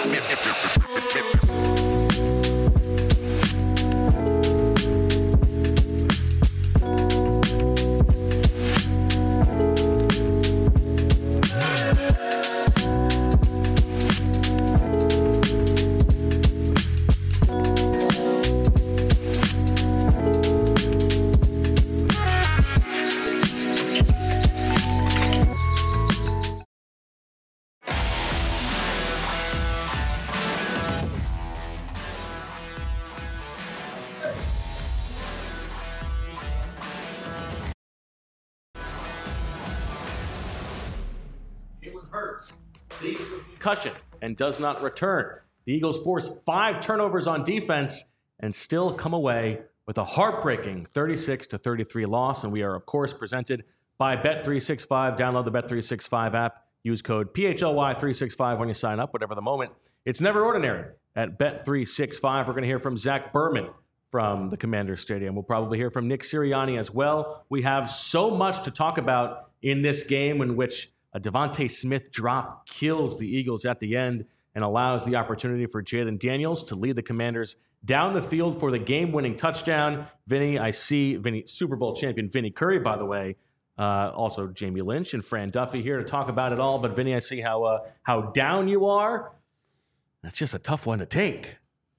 Concussion and does not return. The Eagles force 5 turnovers on defense and still come away with a heartbreaking 36-33 loss. And we are, of course, presented by Bet365. Download the Bet365 app. Use code PHLY365 when you sign up, whatever the moment. It's never ordinary at Bet365. We're going to hear from Zach Berman from the Commanders Stadium. We'll probably hear from Nick Sirianni as well. We have so much to talk about in this game in which a Devontae Smith drop kills the Eagles at the end and allows the opportunity for Jayden Daniels to lead the Commanders down the field for the game-winning touchdown. Vinny, I see Super Bowl champion Vinny Curry, by the way, also Jamie Lynch and Fran Duffy here to talk about it all. But Vinny, I see how down you are. That's just a tough one to take.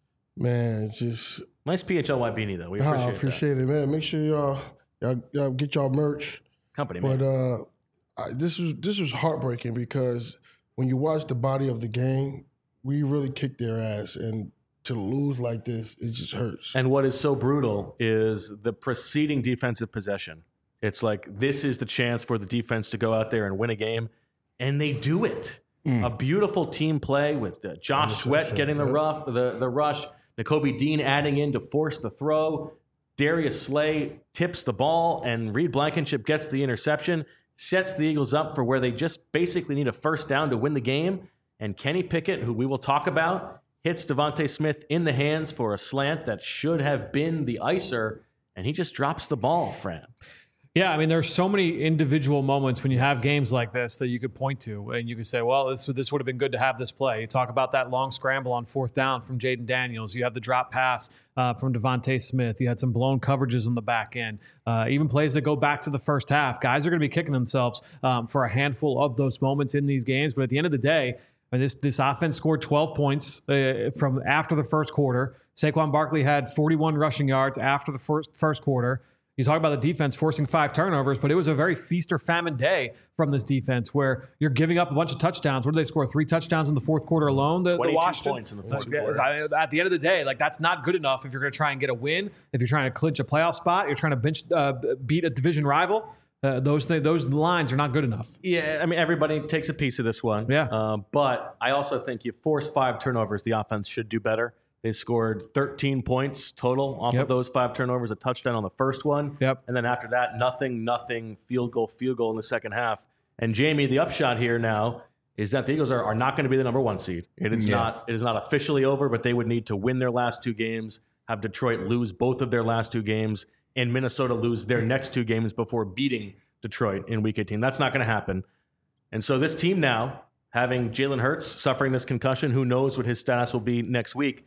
Man, just nice PHLY beanie though. We appreciate it, man. Make sure y'all get y'all merch. Company, man. But this was heartbreaking because when you watch the body of the game, we really kicked their ass, and to lose like this, it just hurts. And what is so brutal is the preceding defensive possession. It's like this is the chance for the defense to go out there and win a game, and they do it. A beautiful team play with Josh Sweat getting the rush, Nakobe Dean adding in to force the throw. Darius Slay tips the ball, and Reed Blankenship gets the interception. Sets the Eagles up for where they just basically need a first down to win the game. And Kenny Pickett, who we will talk about, hits Devontae Smith in the hands for a slant that should have been the icer, and he just drops the ball, Fran. Yeah, I mean, there's so many individual moments when you have games like this that you could point to, and you could say, well, this would have been good to have this play. You talk about that long scramble on 4th down from Jayden Daniels. You have the drop pass from Devontae Smith. You had some blown coverages on the back end. Even plays that go back to the first half. Guys are going to be kicking themselves for a handful of those moments in these games, but at the end of the day, this offense scored 12 points from after the first quarter. Saquon Barkley had 41 rushing yards after the first quarter. You talk about the defense forcing 5 turnovers, but it was a very feast or famine day from this defense where you're giving up a bunch of touchdowns. What did they score? 3 touchdowns in the fourth quarter alone? The 22 Washington points in the fourth quarter. At the end of the day, like that's not good enough if you're going to try and get a win. If you're trying to clinch a playoff spot, you're trying to beat a division rival. Those lines are not good enough. Yeah, I mean, everybody takes a piece of this one. Yeah. But I also think you force 5 turnovers, the offense should do better. They scored 13 points total off of those 5 turnovers, a touchdown on the first one. Yep. And then after that, nothing, field goal in the second half. And Jamie, the upshot here now is that the Eagles are not going to be the number 1 seed. It is not officially over, but they would need to win their last 2 games, have Detroit lose both of their last 2 games, and Minnesota lose their next 2 games before beating Detroit in Week 18. That's not going to happen. And so this team now, having Jalen Hurts suffering this concussion, who knows what his status will be next week,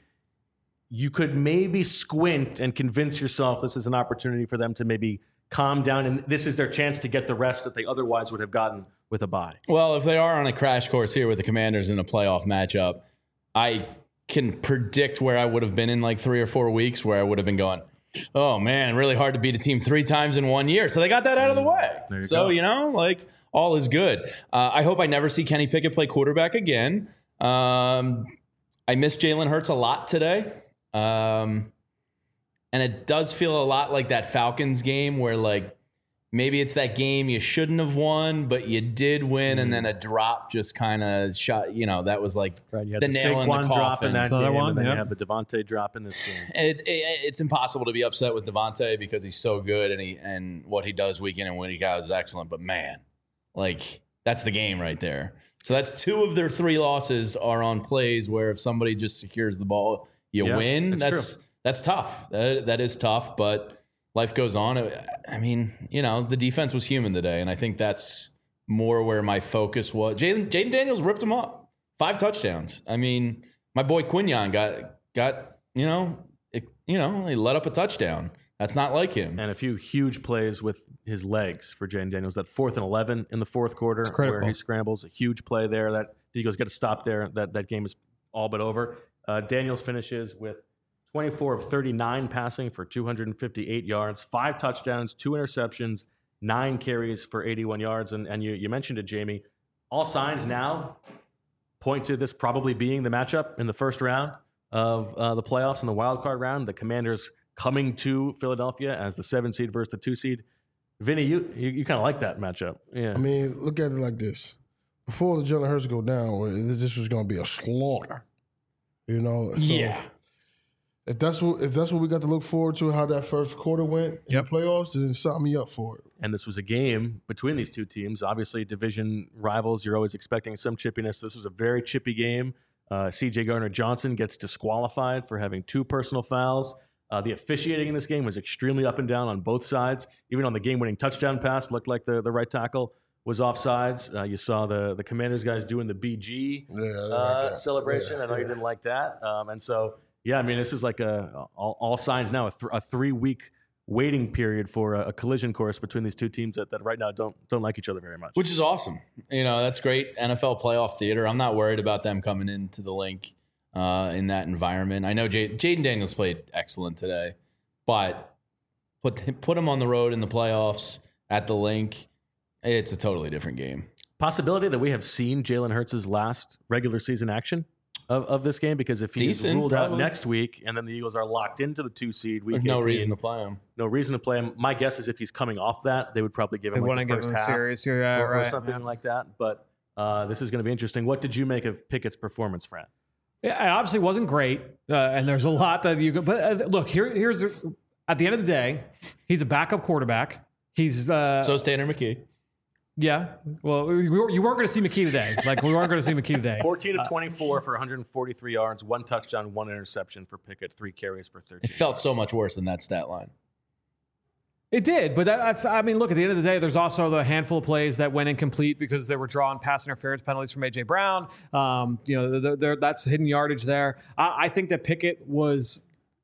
you could maybe squint and convince yourself this is an opportunity for them to maybe calm down, and this is their chance to get the rest that they otherwise would have gotten with a bye. Well, if they are on a crash course here with the Commanders in a playoff matchup, I can predict where I would have been in like 3 or 4 weeks, where I would have been going, oh man, really hard to beat a team 3 times in 1 year. So they got that out of the way. So, like all is good. I hope I never see Kenny Pickett play quarterback again. I miss Jalen Hurts a lot today. And it does feel a lot like that Falcons game where like maybe it's that game you shouldn't have won, but you did win, and then a drop just kind of shot. That was like you had the nail in the coffin. Drop in that game, and then you have the Devontae drop in this game. And it's impossible to be upset with Devontae because he's so good, and what he does week in and week out is excellent. But man, like that's the game right there. So that's 2 of their 3 losses are on plays where if somebody just secures the ball, you win. That's tough. That is tough, but life goes on. I mean, the defense was human today, and I think that's more where my focus was. Jayden Daniels ripped him up. 5 touchdowns. I mean, my boy Quinyon got he let up a touchdown. That's not like him. And a few huge plays with his legs for Jaden Daniels. That 4th and 11 in the fourth quarter where he scrambles, a huge play there that the Eagles got to stop there. That game is all but over. Daniels finishes with 24 of 39 passing for 258 yards, 5 touchdowns, 2 interceptions, 9 carries for 81 yards. And you mentioned it, Jamie. All signs now point to this probably being the matchup in the first round of the playoffs in the wild card round. The Commanders coming to Philadelphia as the 7 seed versus the 2 seed. Vinny, you kind of like that matchup. Yeah. I mean, look at it like this. Before the Jalen Hurts go down, this was going to be a slaughter. You know? So Yeah. If that's what we got to look forward to, how that first quarter went in the playoffs, then sign me up for it. And this was a game between these two teams. Obviously, division rivals, you're always expecting some chippiness. This was a very chippy game. C.J. Gardner-Johnson gets disqualified for having 2 personal fouls. The officiating in this game was extremely up and down on both sides. Even on the game-winning touchdown pass, looked like the right tackle was offsides. You saw the Commanders guys doing the BG celebration. I know you didn't like that. And so, yeah, I mean, this is like all signs now, a 3-week waiting period for a collision course between these two teams that right now don't like each other very much. Which is awesome. That's great NFL playoff theater. I'm not worried about them coming into the link in that environment. I know Jaden Daniels played excellent today, but put him on the road in the playoffs at the link. It's a totally different game. Possibility that we have seen Jalen Hurts' last regular season action of this game, because if he's ruled out next week and then the Eagles are locked into the 2 seed week, there's no reason to play him. No reason to play him. My guess is if he's coming off that, they would probably give him like the first half or something like that. But this is going to be interesting. What did you make of Pickett's performance, Fran? Yeah, it obviously wasn't great, and there's a lot that you could. But look, here's at the end of the day, he's a backup quarterback. He's so is Tanner McKee. Yeah. Well, you weren't going to see McKee today. Like, we weren't going to see McKee today. 14 of 24 for 143 yards, 1 touchdown, 1 interception for Pickett, 3 carries for 13 It felt yards. so much worse than that stat line. It did, but that's, I mean, look, at the end of the day, there's also the handful of plays that went incomplete because they were drawing pass interference penalties from A.J. Brown. That's hidden yardage there. I think that Pickett was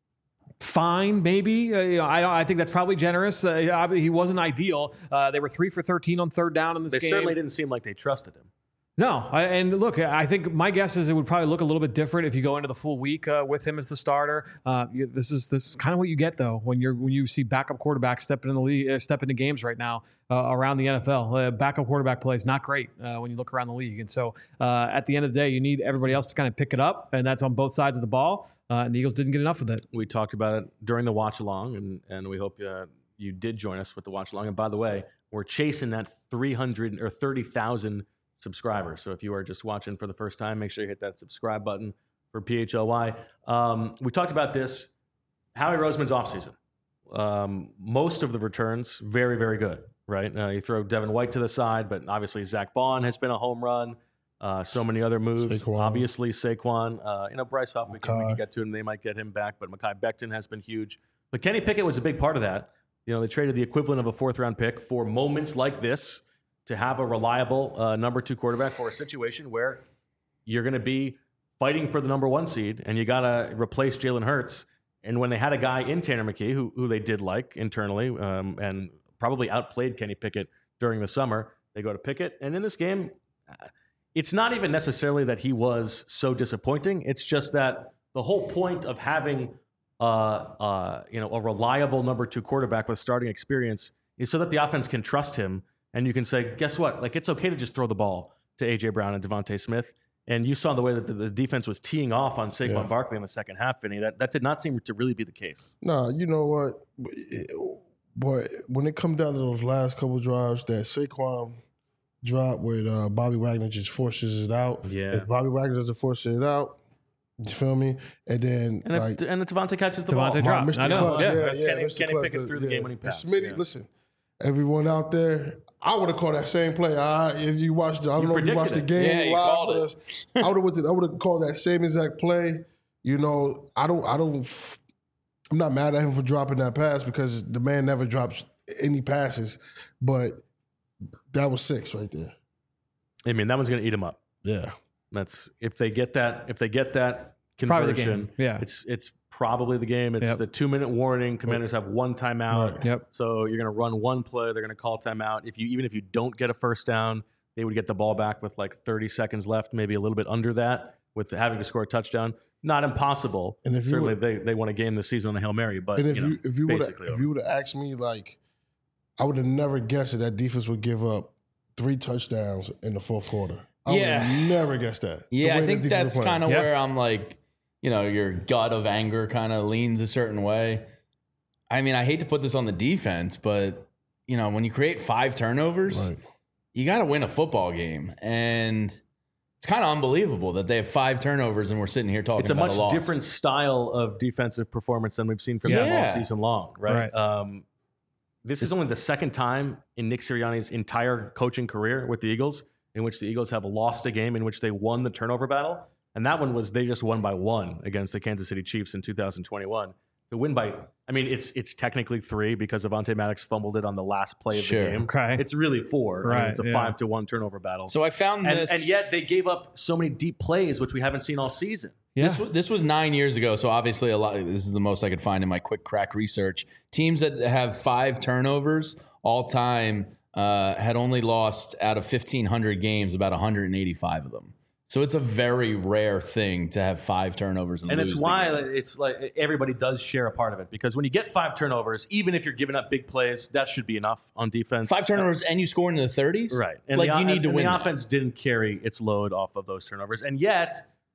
fine, maybe. I think that's probably generous. He wasn't ideal. They were 3 for 13 on 3rd down in this game. They certainly didn't seem like they trusted him. No, and look, I think my guess is it would probably look a little bit different if you go into the full week with him as the starter. This is kind of what you get though when you see backup quarterbacks step into games right now around the NFL. Backup quarterback play is not great when you look around the league, and so at the end of the day, you need everybody else to kind of pick it up, and that's on both sides of the ball. And the Eagles didn't get enough of it. We talked about it during the watch along, and we hope you did join us with the watch along. And by the way, we're chasing that 300 or 30,000 subscribers. So if you are just watching for the first time, make sure you hit that subscribe button for PHLY. We talked about this. Howie Roseman's offseason. Most of the returns, very, very good, right? You throw Devin White to the side, but obviously Zach Bond has been a home run. So many other moves. Saquon. Obviously Saquon. Bryce Huff, we can get to him. They might get him back, but Mekhi Becton has been huge. But Kenny Pickett was a big part of that. They traded the equivalent of a 4th-round pick for moments like this, to have a reliable number 2 quarterback for a situation where you're going to be fighting for the number 1 seed and you got to replace Jalen Hurts. And when they had a guy in Tanner McKee who they did like internally and probably outplayed Kenny Pickett during the summer, they go to Pickett. And in this game, it's not even necessarily that he was so disappointing. It's just that the whole point of having a reliable number 2 quarterback with starting experience is so that the offense can trust him. And you can say, guess what? Like, it's okay to just throw the ball to A.J. Brown and Devontae Smith. And you saw the way that the defense was teeing off on Saquon Barkley in the second half, Vinny. That did not seem to really be the case. No, you know what? Boy, when it comes down to those last couple drives that Saquon dropped with Bobby Wagner just forces it out. Yeah. If Bobby Wagner doesn't force it out, you feel me? And then and Devontae catches the ball. Devontae dropped. Mr. I know. Clutch, Kenny Pickett threw the game-winning pass. Smitty, listen, everyone out there, I would have called that same play. If you watched, I don't know if you watched the game live with us. I would have called that same exact play. I'm not mad at him for dropping that pass because the man never drops any passes, but that was 6 right there. I mean, that one's going to eat him up. Yeah. That's if they get that conversion. Probably the game. Yeah. It's probably the game. It's the 2-minute warning. Commanders have one timeout. Right. Yep. So you're going to run one play. They're going to call timeout. Even if you don't get a first down, they would get the ball back with like 30 seconds left, maybe a little bit under that, with having to score a touchdown. Not impossible. And if certainly they won a game this season on a Hail Mary. But and if you would have asked me, like, I would have never guessed that defense would give up 3 touchdowns in the fourth quarter. I would have never guessed that. Yeah, I think that's kind of where I'm like, your gut of anger kind of leans a certain way. I mean, I hate to put this on the defense, but, when you create 5 turnovers, you got to win a football game. And it's kind of unbelievable that they have 5 turnovers and we're sitting here talking about a loss. It's a much different style of defensive performance than we've seen from them all season long, right? This is only the second time in Nick Sirianni's entire coaching career with the Eagles in which the Eagles have lost a game in which they won the turnover battle. And that one was they just won by 1 against the Kansas City Chiefs in 2021. The win by, it's technically 3 because Avonte Maddox fumbled it on the last play of the game. Okay. It's really 4. Right. It's a 5-1 turnover battle. So I found this. And yet they gave up so many deep plays, which we haven't seen all season. Yeah. This was 9 years ago, so obviously this is the most I could find in my quick crack research. Teams that have 5 turnovers all time had only lost out of 1,500 games about 185 of them. So it's a very rare thing to have 5 turnovers and lose. It's why it's like everybody does share a part of it, because when you get 5 turnovers, even if you're giving up big plays, that should be enough on defense. 5 turnovers and you score into the 30s, right? And you need to win. The offense didn't carry its load off of those turnovers, and yet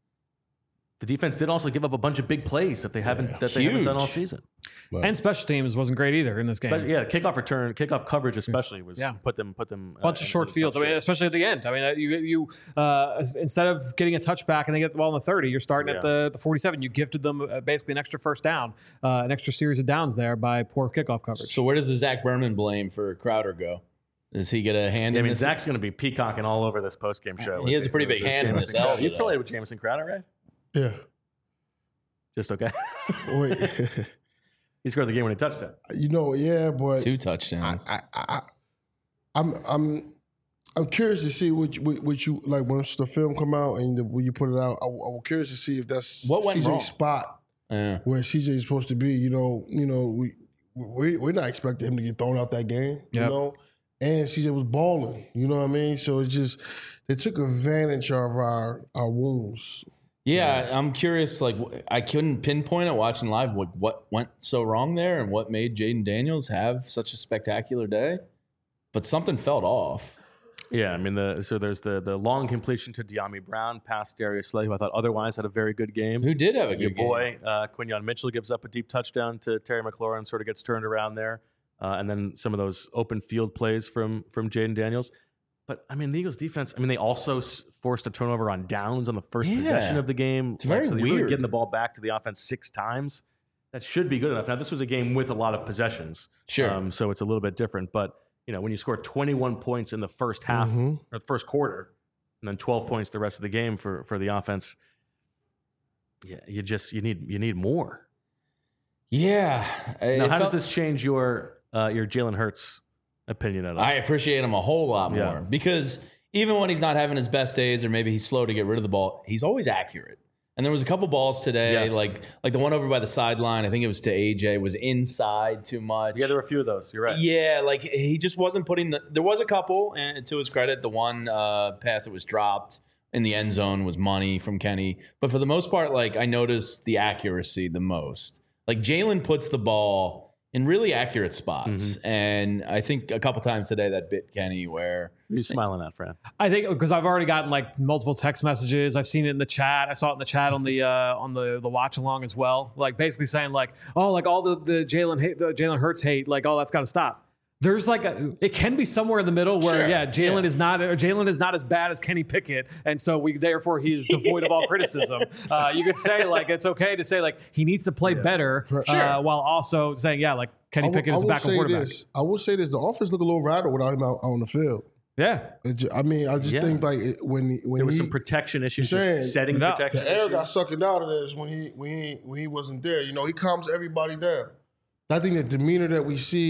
the defense did also give up a bunch of big plays that they haven't done all season. Right. And special teams wasn't great either in this game. Kickoff coverage especially was put them bunch of short fields. Especially at the end. You instead of getting a touchback and they get the ball in the 30, you're starting at the 47. You gifted them basically an extra first down, an extra series of downs there by poor kickoff coverage. So where does the Zach Berman blame for Crowder go? Does he get a hand in this? Zach's going to be peacocking all over this postgame show. He has a pretty big hand in this elbow. You played with Jamison Crowder, right? Yeah. Just okay. Wait. He scored the game when he touched it. But 2 touchdowns. I'm curious to see what you like once the film come out and when you put it out. I'm curious to see if that's what went CJ's wrong? Spot where CJ is supposed to be. We're not expecting him to get thrown out that game. Yep. And CJ was balling. You know what I mean? So it's just they took advantage of our wounds. Yeah, I'm curious. Like, I couldn't pinpoint it watching live what went so wrong there and what made Jaden Daniels have such a spectacular day. But something felt off. Yeah, so there's the long completion to De'Ami Brown past Darius Slay, who I thought otherwise had a very good game. Who did have a good game. Your boy, Quinyon Mitchell, gives up a deep touchdown to Terry McLaurin, sort of gets turned around there. And then some of those open field plays from Jaden Daniels. But, the Eagles defense, they also forced a turnover on downs on the first possession of the game. It's very weird. Really getting the ball back to the offense 6 times. That should be good enough. Now, this was a game with a lot of possessions. Sure. So it's a little bit different. But, when you score 21 points in the first half or the first quarter and then 12 points the rest of the game for the offense, you need more. Yeah. Now, how does this change your Jalen Hurts opinion at all? I appreciate him a whole lot more because even when he's not having his best days or maybe he's slow to get rid of the ball, he's always accurate. And there was a couple balls today, like the one over by the sideline, I think it was to AJ, was inside too much. Yeah, there were a few of those. You're right. Yeah, like he just wasn't putting there was a couple, and to his credit, the one pass that was dropped in the end zone was money from Kenny. But for the most part, like I noticed the accuracy the most. Like Jalen puts the ball in really accurate spots. And I think a couple times today that bit Kenny where... What are you smiling at, Fran? I think because I've already gotten like multiple text messages. I've seen it in the chat. I saw it in the chat on the watch along as well. Like basically saying like, oh, like all the Jalen Hurts hate, like, oh, that's got to stop. There's like it can be somewhere in the middle where Jalen is not as bad as Kenny Pickett, and so therefore he's devoid of all criticism. You could say like it's okay to say like he needs to play better, while also saying like Kenny Pickett is a backup quarterback. I will say this: the offense look a little rattled without him out on the field. Yeah, I just think like when there was some protection issues, setting protection. The air got sucked out of this when he wasn't there. He calms everybody down. I think the demeanor that we see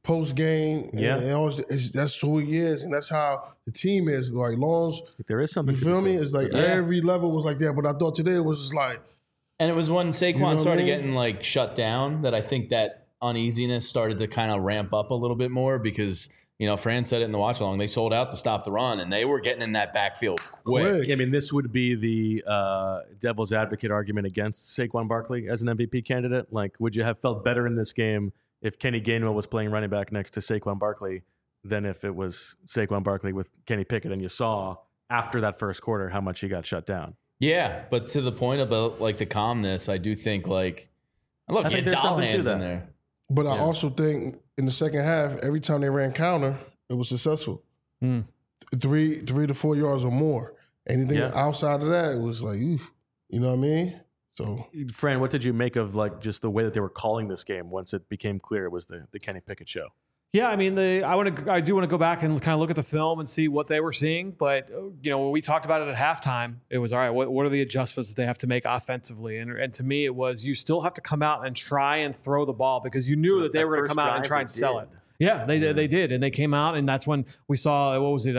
post game. Yeah. That's who he is, and that's how the team is. Like, Lawns, there is something. You feel me? It's like every level was like that, but I thought today it was just like. And it was when Saquon started getting like shut down that I think that uneasiness started to kind of ramp up a little bit more because, Fran said it in the watch along, they sold out to stop the run and they were getting in that backfield quick. I mean, this would be the devil's advocate argument against Saquon Barkley as an MVP candidate. Like, would you have felt better in this game if Kenny Gainwell was playing running back next to Saquon Barkley than if it was Saquon Barkley with Kenny Pickett and you saw after that first quarter how much he got shut down? Yeah, but to the point about like the calmness, I do think like, look, you had doll hands in there. But I also think in the second half, every time they ran counter, it was successful. 3 to 4 yards or more. Anything outside of that, it was like, oof, you know what I mean? So, Fran, what did you make of like just the way that they were calling this game once it became clear it was the Kenny Pickett show? Yeah, I mean, I do want to go back and kind of look at the film and see what they were seeing. But when we talked about it at halftime, it was all right. What are the adjustments that they have to make offensively? And to me, it was you still have to come out and try and throw the ball because you knew that they were going to come out and try and sell it. Yeah, they did, and they came out, and that's when we saw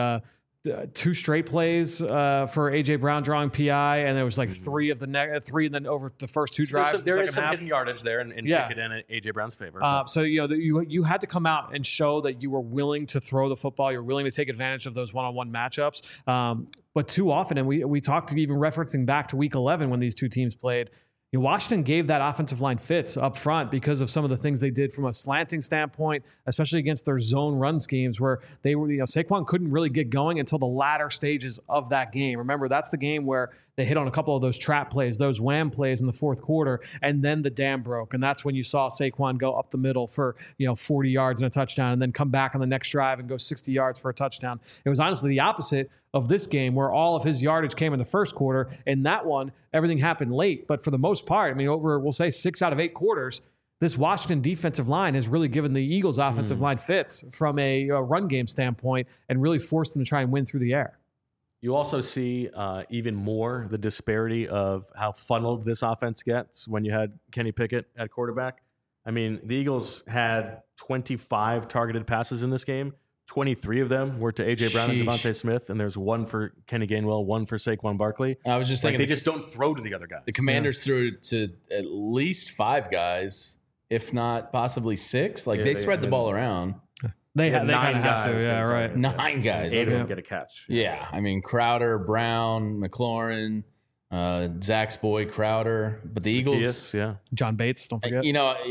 2 straight plays for AJ Brown drawing PI, and there was like 3 and then over the first 2 drives. There is some hidden yardage there in Pickett and AJ Brown's favor. So you had to come out and show that you were willing to throw the football, you're willing to take advantage of those one-on-one matchups. But too often, and we talked even referencing back to Week 11 when these two teams played. Washington gave that offensive line fits up front because of some of the things they did from a slanting standpoint, especially against their zone run schemes where they were, Saquon couldn't really get going until the latter stages of that game. Remember, that's the game where they hit on a couple of those trap plays, those wham plays in the fourth quarter, and then the dam broke. And that's when you saw Saquon go up the middle for, 40 yards and a touchdown and then come back on the next drive and go 60 yards for a touchdown. It was honestly the opposite of this game where all of his yardage came in the first quarter. In that one, everything happened late. But for the most part, over, we'll say 6 out of 8 quarters, this Washington defensive line has really given the Eagles offensive line fits from a run game standpoint and really forced them to try and win through the air. You also see even more the disparity of how funneled this offense gets when you had Kenny Pickett at quarterback. The Eagles had 25 targeted passes in this game. 23 of them were to A.J. Brown and Devontae Smith, and there's 1 for Kenny Gainwell, 1 for Saquon Barkley. I was just thinking they just don't throw to the other guys. The Commanders threw to at least 5 guys, if not possibly 6. They spread the ball around. They kind of have to, yeah, right. 9 guys. 8 of them get a catch. Yeah, Crowder, Brown, McLaurin, Zach's boy Crowder, but the Eagles, John Bates, don't forget.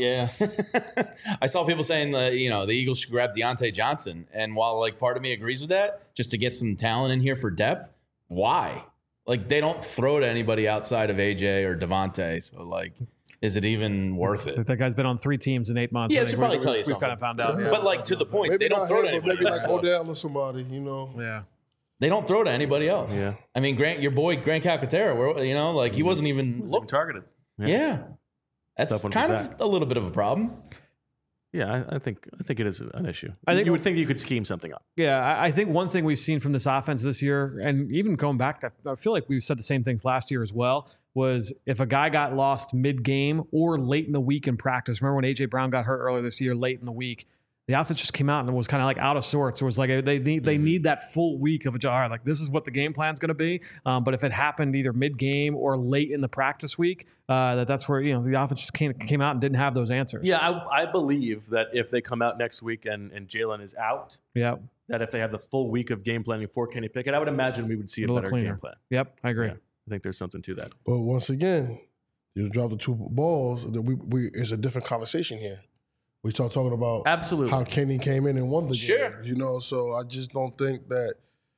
I saw people saying that the Eagles should grab Deontay Johnson, and while part of me agrees with that, just to get some talent in here for depth, why? They don't throw to anybody outside of AJ or Devontae, so is it even worth it? That guy's been on 3 teams in 8 months. Yeah, it should probably tell you something. We've kind of found out. Yeah. But to the point, maybe they don't throw to anybody. Maybe Odell or somebody, Yeah. They don't throw to anybody else. Yeah. Grant, your boy Grant Calcaterra, he wasn't even targeted. Yeah. That's kind of a little bit of a problem. Yeah, I think it is an issue. I think you would think you could scheme something up. Yeah, I think one thing we've seen from this offense this year, and even going back, I feel like we've said the same things last year as well, was if a guy got lost mid-game or late in the week in practice. Remember when A.J. Brown got hurt earlier this year, late in the week? The offense just came out and was kind of out of sorts. It was they need that full week of a jar. This is what the game plan's going to be. But if it happened either mid-game or late in the practice week, that's where the offense just came out and didn't have those answers. Yeah, I believe that if they come out next week and Jalen is out, that if they have the full week of game planning for Kenny Pickett, I would imagine we would see a better game plan. Yep, I agree. Yeah, I think there's something to that. But once again, you drop the 2 balls. It's a different conversation here. We start talking about absolutely how Kenny came in and won the game. So I just don't think that.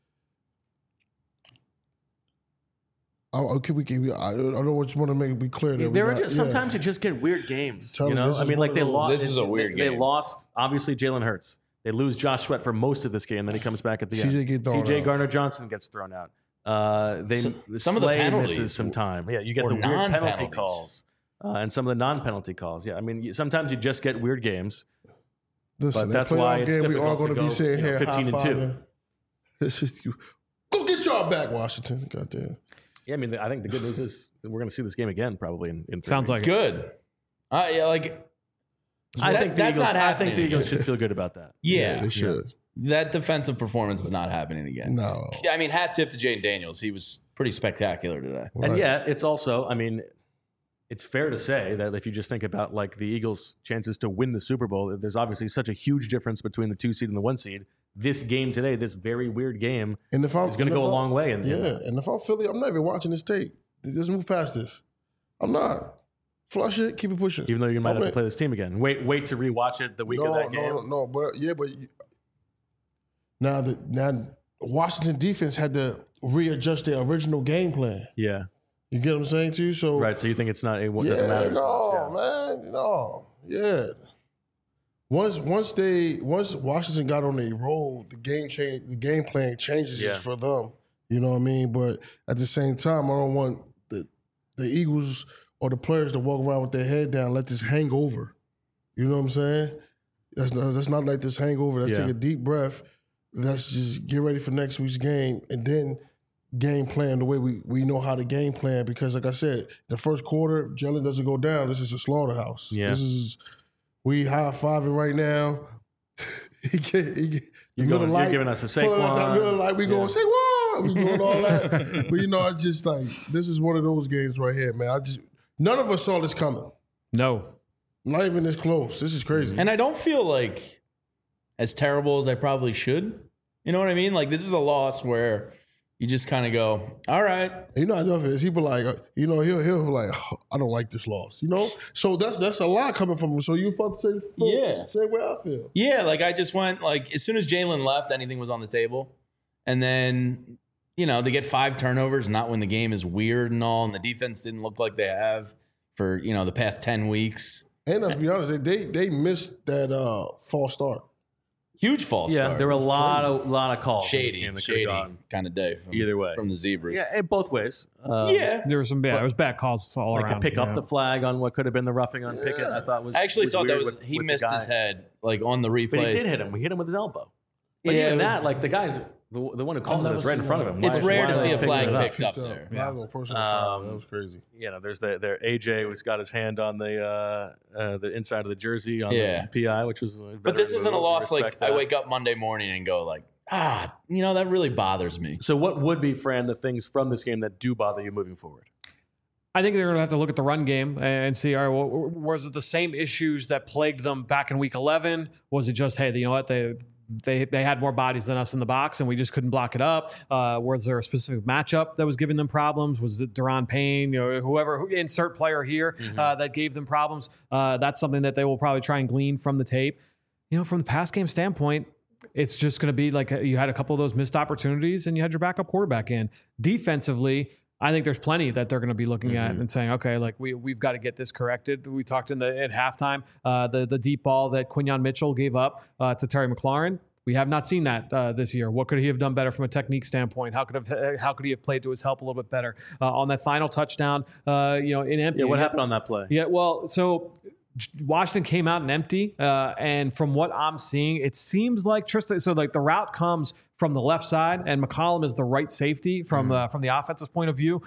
I don't want to be clear that sometimes you just get weird games. They lost. This is a weird game. They lost. Obviously, Jalen Hurts. They lose Josh Sweat for most of this game, then he comes back at the end. CJ Gardner-Johnson gets thrown out. Some of the penalties misses some time. Yeah, you get the weird penalty calls. And some of the non-penalty calls. Yeah, sometimes you just get weird games. Listen, but that's why it's difficult we are going to be sitting here 15-2. It's just go get y'all back, Washington. Goddamn. Yeah, I think the good news is we're going to see this game again probably in 3 Sounds weeks. like good. I think the Eagles should feel good about that. Yeah, they should. That defensive performance is not happening again. No. I mean, hat tip to Jaden Daniels. He was pretty spectacular today. Right. And yet, it's also, I mean, it's fair to say that if you just think about like the Eagles' chances to win the Super Bowl, there's obviously such a huge difference between the 2 seed and the 1 seed. This game today, this very weird game, is going to go a long way. And if I'm Philly, I'm not even watching this tape. Just move past this. I'm not. Flush it, keep it pushing. Even though you might have to play this team again. Wait to rewatch it the week of that game. No, but now Washington defense had to readjust their original game plan. Yeah. You get what I'm saying to you? So right, so you think it doesn't matter? Yeah. Once Washington got on a roll, the game plan changes for them. You know what I mean? But at the same time, I don't want the Eagles or the players to walk around with their head down, let this hangover. You know what I'm saying? Let's not let this hangover. Let's take a deep breath. Let's just get ready for next week's game and then game plan the way we know how to game plan. Because like I said, the first quarter, Jalen doesn't go down. This is a slaughterhouse. Yeah. We high-fiving right now. You're giving us a Saquon. Middle light, we going Saquon. We doing all that. But I just like, this is one of those games right here, man. None of us saw this coming. No. Not even this close. This is crazy. And I don't feel like as terrible as I probably should. You know what I mean? Like, this is a loss where you just kind of go, all right. I know if he be like, he'll be like, oh, I don't like this loss. So that's a lot coming from him. So you felt the same way I feel. Yeah, like I just went, like, as soon as Jalen left, anything was on the table. And then, to get 5 turnovers, not when the game is weird and all, and the defense didn't look like they have for, the past 10 weeks. And let's be honest, they missed that false start. Huge false start. Yeah, there were a lot of calls. Shady kind of day. Either way. From the Zebras. Yeah, in both ways. There were some there was bad calls all around. To pick up the flag on what could have been the roughing on Pickett, I thought was. I actually thought that was he with missed his head like on the replay. But he did hit him. We hit him with his elbow. But even that, like the guy's the one who calls it is right in front of him. It's rare to see a flag picked up there. That was crazy. There's their AJ who's got his hand on the inside of the jersey on the PI, which was. But this isn't a loss. Like I wake up Monday morning and go like, that really bothers me. So what would be, Fran, the things from this game that do bother you moving forward? I think they're going to have to look at the run game and see, all right, well, was it the same issues that plagued them back in week 11? Was it just, hey, you know what, they had more bodies than us in the box and we just couldn't block it up? Was there a specific matchup that was giving them problems? Was it Daron Payne, whoever, insert player here that gave them problems? That's something that they will probably try and glean from the tape. From the pass game standpoint, it's just going to be like you had a couple of those missed opportunities and you had your backup quarterback in. Defensively, I think there's plenty that they're going to be looking at and saying, okay, like we've got to get this corrected. We talked at halftime, the deep ball that Quinyon Mitchell gave up to Terry McLaurin. We have not seen that this year. What could he have done better from a technique standpoint? How could he have played to his help a little bit better on that final touchdown? In empty. Yeah, what happened on that play? Yeah, well, so Washington came out in empty, and from what I'm seeing, it seems like Tristan. So like the route comes from the left side, and McCollum is the right safety from the offensive point of view.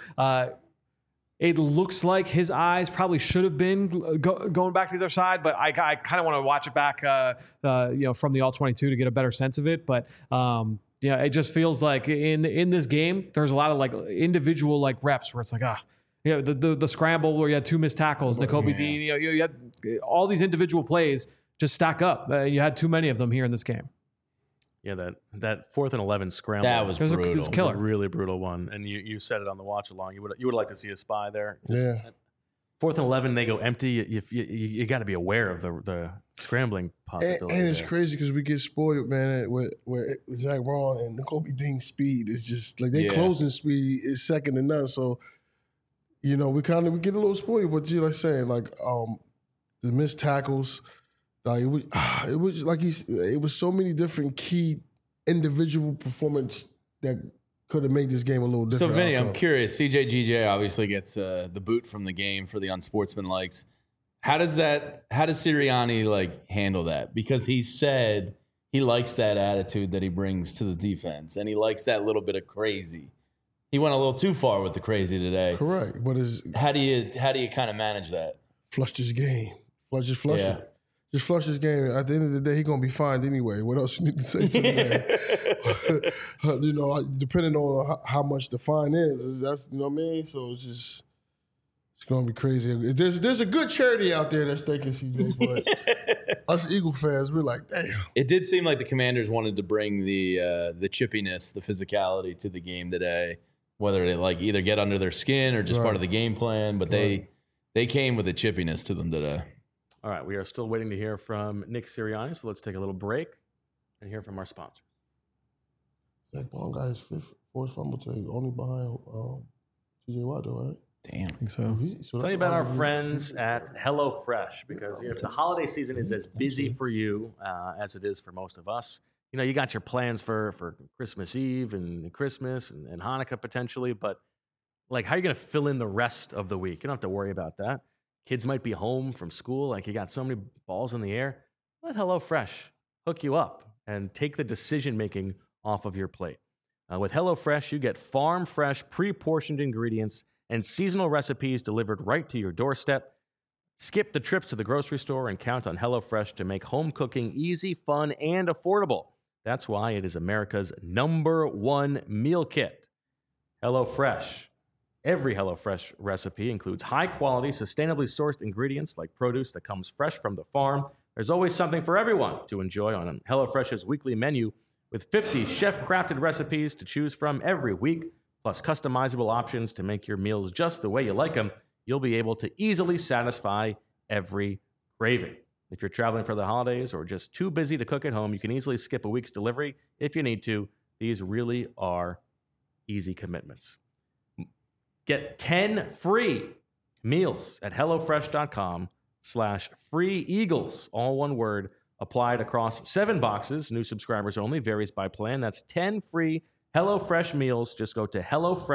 It looks like his eyes probably should have been going back to the other side, but I kind of want to watch it back, from the all-22 to get a better sense of it. But it just feels like in this game, there's a lot of like individual like reps where it's like the scramble where you had 2 missed tackles, Nakobe Dean. You had all these individual plays just stack up. You had too many of them here in this game. Yeah, that 4th and 11 scramble. That was brutal. It was a killer. A really brutal one. And you said it on the watch along. You would like to see a spy there. Yeah. 4th and 11, they go empty. You got to be aware of the scrambling possibility. And it's crazy because we get spoiled, man, with Zach Braun and Nakobe Dean's speed. It's just like their closing speed is second to none. So, we get a little spoiled. But like saying, like the missed tackles. It was like it was so many different key individual performance that could have made this game a little different. So Vinny, I'm curious. CJGJ obviously gets the boot from the game for the unsportsmanlikes. How does Sirianni handle that? Because he said he likes that attitude that he brings to the defense, and he likes that little bit of crazy. He went a little too far with the crazy today. Correct, but how do you kind of manage that? Flush this game. Flush it. Just flush this game. At the end of the day, he's gonna be fined anyway. What else you need to say to the man? You know, depending on how much the fine is, that's, you know what I mean. So it's gonna be crazy. There's a good charity out there that's thanking CJ, but us Eagle fans, we're like, damn. It did seem like the Commanders wanted to bring the chippiness, the physicality to the game today, whether they like either get under their skin or just part of the game plan. But they came with the chippiness to them today. All right, we are still waiting to hear from Nick Sirianni, so let's take a little break and hear from our sponsor. Zach Bond got his fifth forced fumble today, only behind TJ Watt, though, right? Damn. I think so. Tell you about our friends at HelloFresh, because if the holiday season is as busy for you as it is for most of us, you know, you got your plans for Christmas Eve and Christmas and Hanukkah potentially, but like, how are you going to fill in the rest of the week? You don't have to worry about that. Kids might be home from school. Like, you got so many balls in the air. Let HelloFresh hook you up and take the decision-making off of your plate. With HelloFresh, you get farm-fresh, pre-portioned ingredients and seasonal recipes delivered right to your doorstep. Skip the trips to the grocery store and count on HelloFresh to make home cooking easy, fun, and affordable. That's why it is America's #1 meal kit. HelloFresh. Every HelloFresh recipe includes high-quality, sustainably sourced ingredients like produce that comes fresh from the farm. There's always something for everyone to enjoy on HelloFresh's weekly menu, with 50 chef-crafted recipes to choose from every week, plus customizable options to make your meals just the way you like them. You'll be able to easily satisfy every craving. If you're traveling for the holidays or just too busy to cook at home, you can easily skip a week's delivery if you need to. These really are easy commitments. Get 10 free meals at HelloFresh.com/freeeagles, all one word, applied across 7 boxes. New subscribers only, varies by plan. That's 10 free HelloFresh meals. Just go to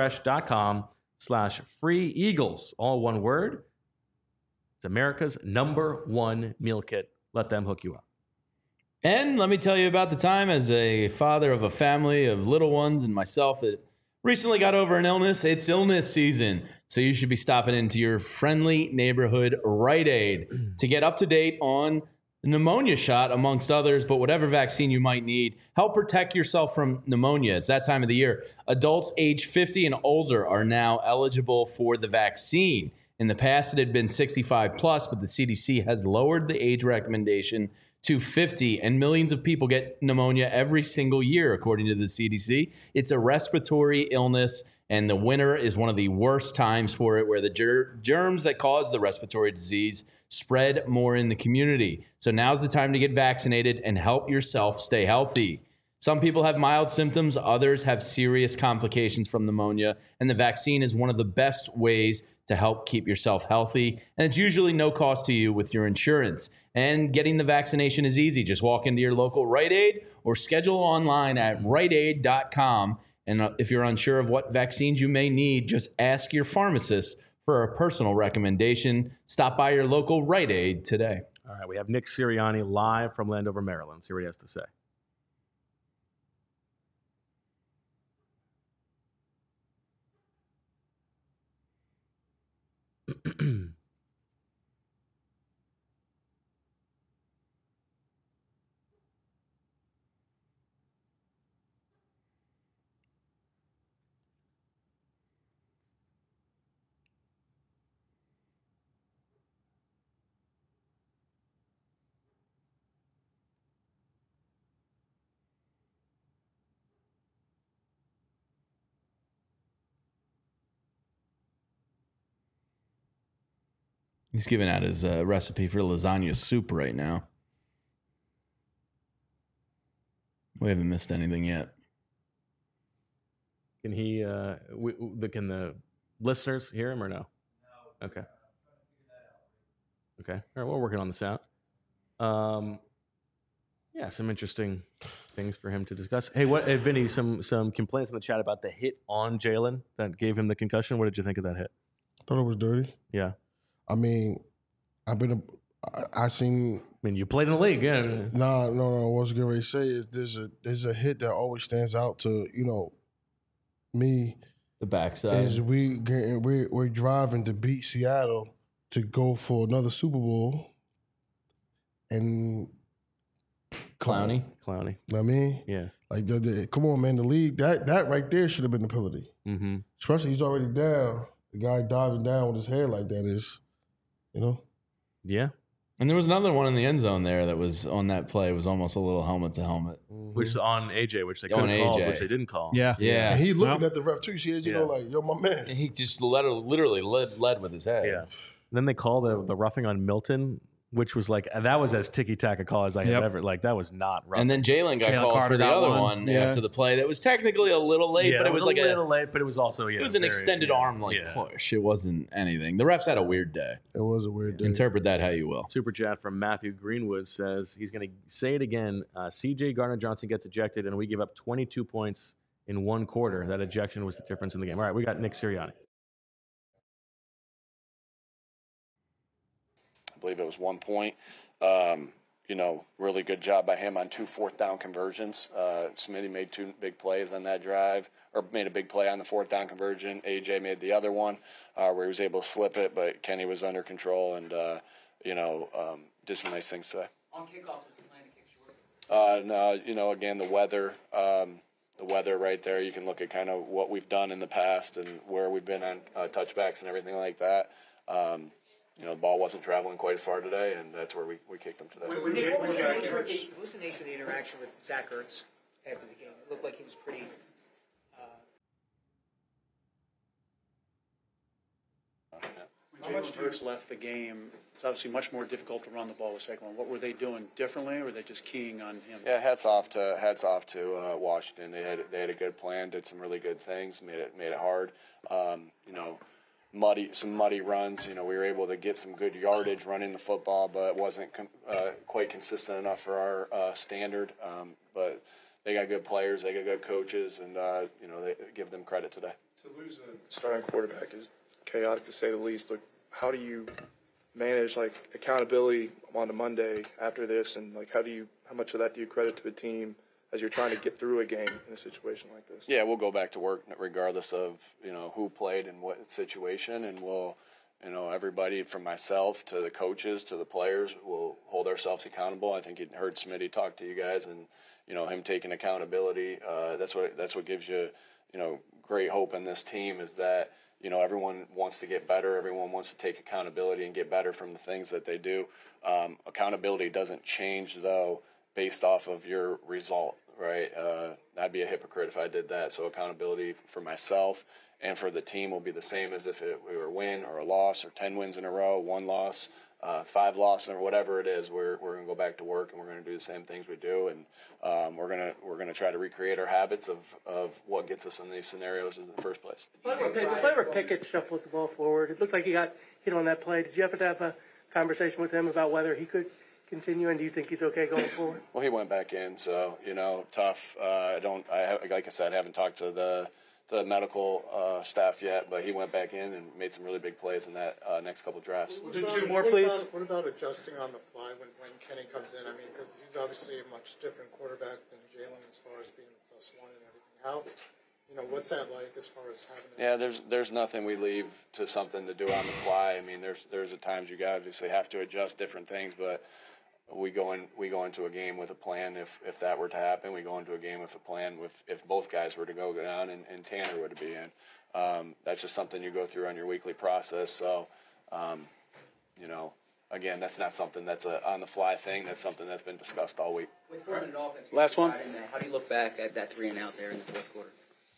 HelloFresh.com/freeeagles, all one word. It's America's #1 meal kit. Let them hook you up. And let me tell you about the time as a father of a family of little ones and myself that recently got over an illness. It's illness season, so you should be stopping into your friendly neighborhood Rite Aid to get up to date on the pneumonia shot, amongst others, but whatever vaccine you might need. Help protect yourself from pneumonia. It's that time of the year. Adults age 50 and older are now eligible for the vaccine. In the past, it had been 65 plus, but the CDC has lowered the age recommendation to 50, and millions of people get pneumonia every single year, according to the CDC. It's a respiratory illness, and the winter is one of the worst times for it, where the germs that cause the respiratory disease spread more in the community. So now's the time to get vaccinated and help yourself stay healthy. Some people have mild symptoms, others have serious complications from pneumonia, and the vaccine is one of the best ways to help keep yourself healthy. And it's usually no cost to you with your insurance. And getting the vaccination is easy. Just walk into your local Rite Aid or schedule online at riteaid.com. And if you're unsure of what vaccines you may need, just ask your pharmacist for a personal recommendation. Stop by your local Rite Aid today. All right, we have Nick Sirianni live from Landover, Maryland. See what he has to say. He's giving out his recipe for lasagna soup right now. We haven't missed anything yet. Can he? Can the listeners hear him or no? No. Okay. Okay. All right. We're working on the sound. Yeah, some interesting things for him to discuss. Hey, Vinny? Some complaints in the chat about the hit on Jalen that gave him the concussion. What did you think of that hit? I thought it was dirty. Yeah. I mean, I mean, you played in the league, yeah. No. What I was going to say is there's a hit that always stands out to me. The backside is we're driving to beat Seattle to go for another Super Bowl, and Clowney. You know what I mean? Yeah. Like, come on, man. The league, that right there should have been the penalty. Mm-hmm. Especially he's already down. The guy diving down with his hair like that is, Yeah. And there was another one in the end zone there that was on that play. It was almost a little helmet to helmet. Mm-hmm. Which is on AJ, which they could have called, which they didn't call. Yeah. Yeah. And he looking at the ref too. She is, like, yo, my man. And he just literally led with his head. Yeah. And then they call the roughing on Milton, which was like, that was as ticky-tack a call as I have ever, like, that was not rough. And then Jalen got called Carter for the got other one after the play. That was technically a little late, but it was like a little late, but it was also, it was an extended arm push. It wasn't anything. The refs had a weird day. It was a weird day. Interpret that how you will. Super chat from Matthew Greenwood says he's going to say it again. CJ Gardner-Johnson gets ejected, and we give up 22 points in one quarter. That ejection was the difference in the game. All right, we got Nick Sirianni. I believe it was 1 point. Really good job by him on 2 4th-down conversions. Smitty made 2 big plays on that drive, or made a big play on the 4th-down conversion. AJ made the other one where he was able to slip it, but Kenny was under control and, did some nice things today. On kickoffs, was the plan to kick short? No, again, the weather right there, you can look at kind of what we've done in the past and where we've been on touchbacks and everything like that. The ball wasn't traveling quite as far today, and that's where we kicked them today. What was the nature of the interaction with Zach Ertz after the game? It looked like he was pretty... When Jalen Hurts left the game, it's obviously much more difficult to run the ball with second one. What were they doing differently, or were they just keying on him? Yeah, hats off to Washington. They had a good plan, did some really good things, made it hard. Muddy runs. We were able to get some good yardage running the football, but it wasn't quite consistent enough for our standard. But they got good players, they got good coaches, and they give them credit today. To lose a starting quarterback is chaotic to say the least. Look, how do you manage accountability on a Monday after this, and how much of that do you credit to the team as you're trying to get through a game in a situation like this? Yeah, we'll go back to work regardless of who played in what situation, and we'll everybody from myself to the coaches to the players will hold ourselves accountable. I think you heard Smitty talk to you guys, and him taking accountability. That's what gives you great hope in this team, is that everyone wants to get better. Everyone wants to take accountability and get better from the things that they do. Accountability doesn't change, though, based off of your result, right? I'd be a hypocrite if I did that. So accountability for myself and for the team will be the same as if we were a win or a loss, or 10 wins in a row, 1 loss, 5 losses, or whatever it is. We're going to go back to work, and we're going to do the same things we do, and we're going to try to recreate our habits of what gets us in these scenarios in the first place. The play where Pickett shuffled the ball forward, it looked like he got hit on that play. Did you happen to have a conversation with him about whether he could continue, and do you think he's okay going forward? Well, he went back in, so tough. Like I said, I haven't talked to the medical staff yet, but he went back in and made some really big plays in that next couple drafts. Do 2 more, please. What about adjusting on the fly when Kenny comes in? I mean, because he's obviously a much different quarterback than Jalen as far as being +1 and everything. How, what's that like as far as having? There's nothing we leave to something to do on the fly. I mean, there's at times you obviously have to adjust different things, but we go into a game with a plan. If that were to happen, we go into a game with a plan. If both guys were to go down and Tanner were to be in, that's just something you go through on your weekly process. So, again, that's not something that's a on the fly thing. That's something that's been discussed all week. With an offense, last one. How do you look back at that 3 and out there in the fourth quarter?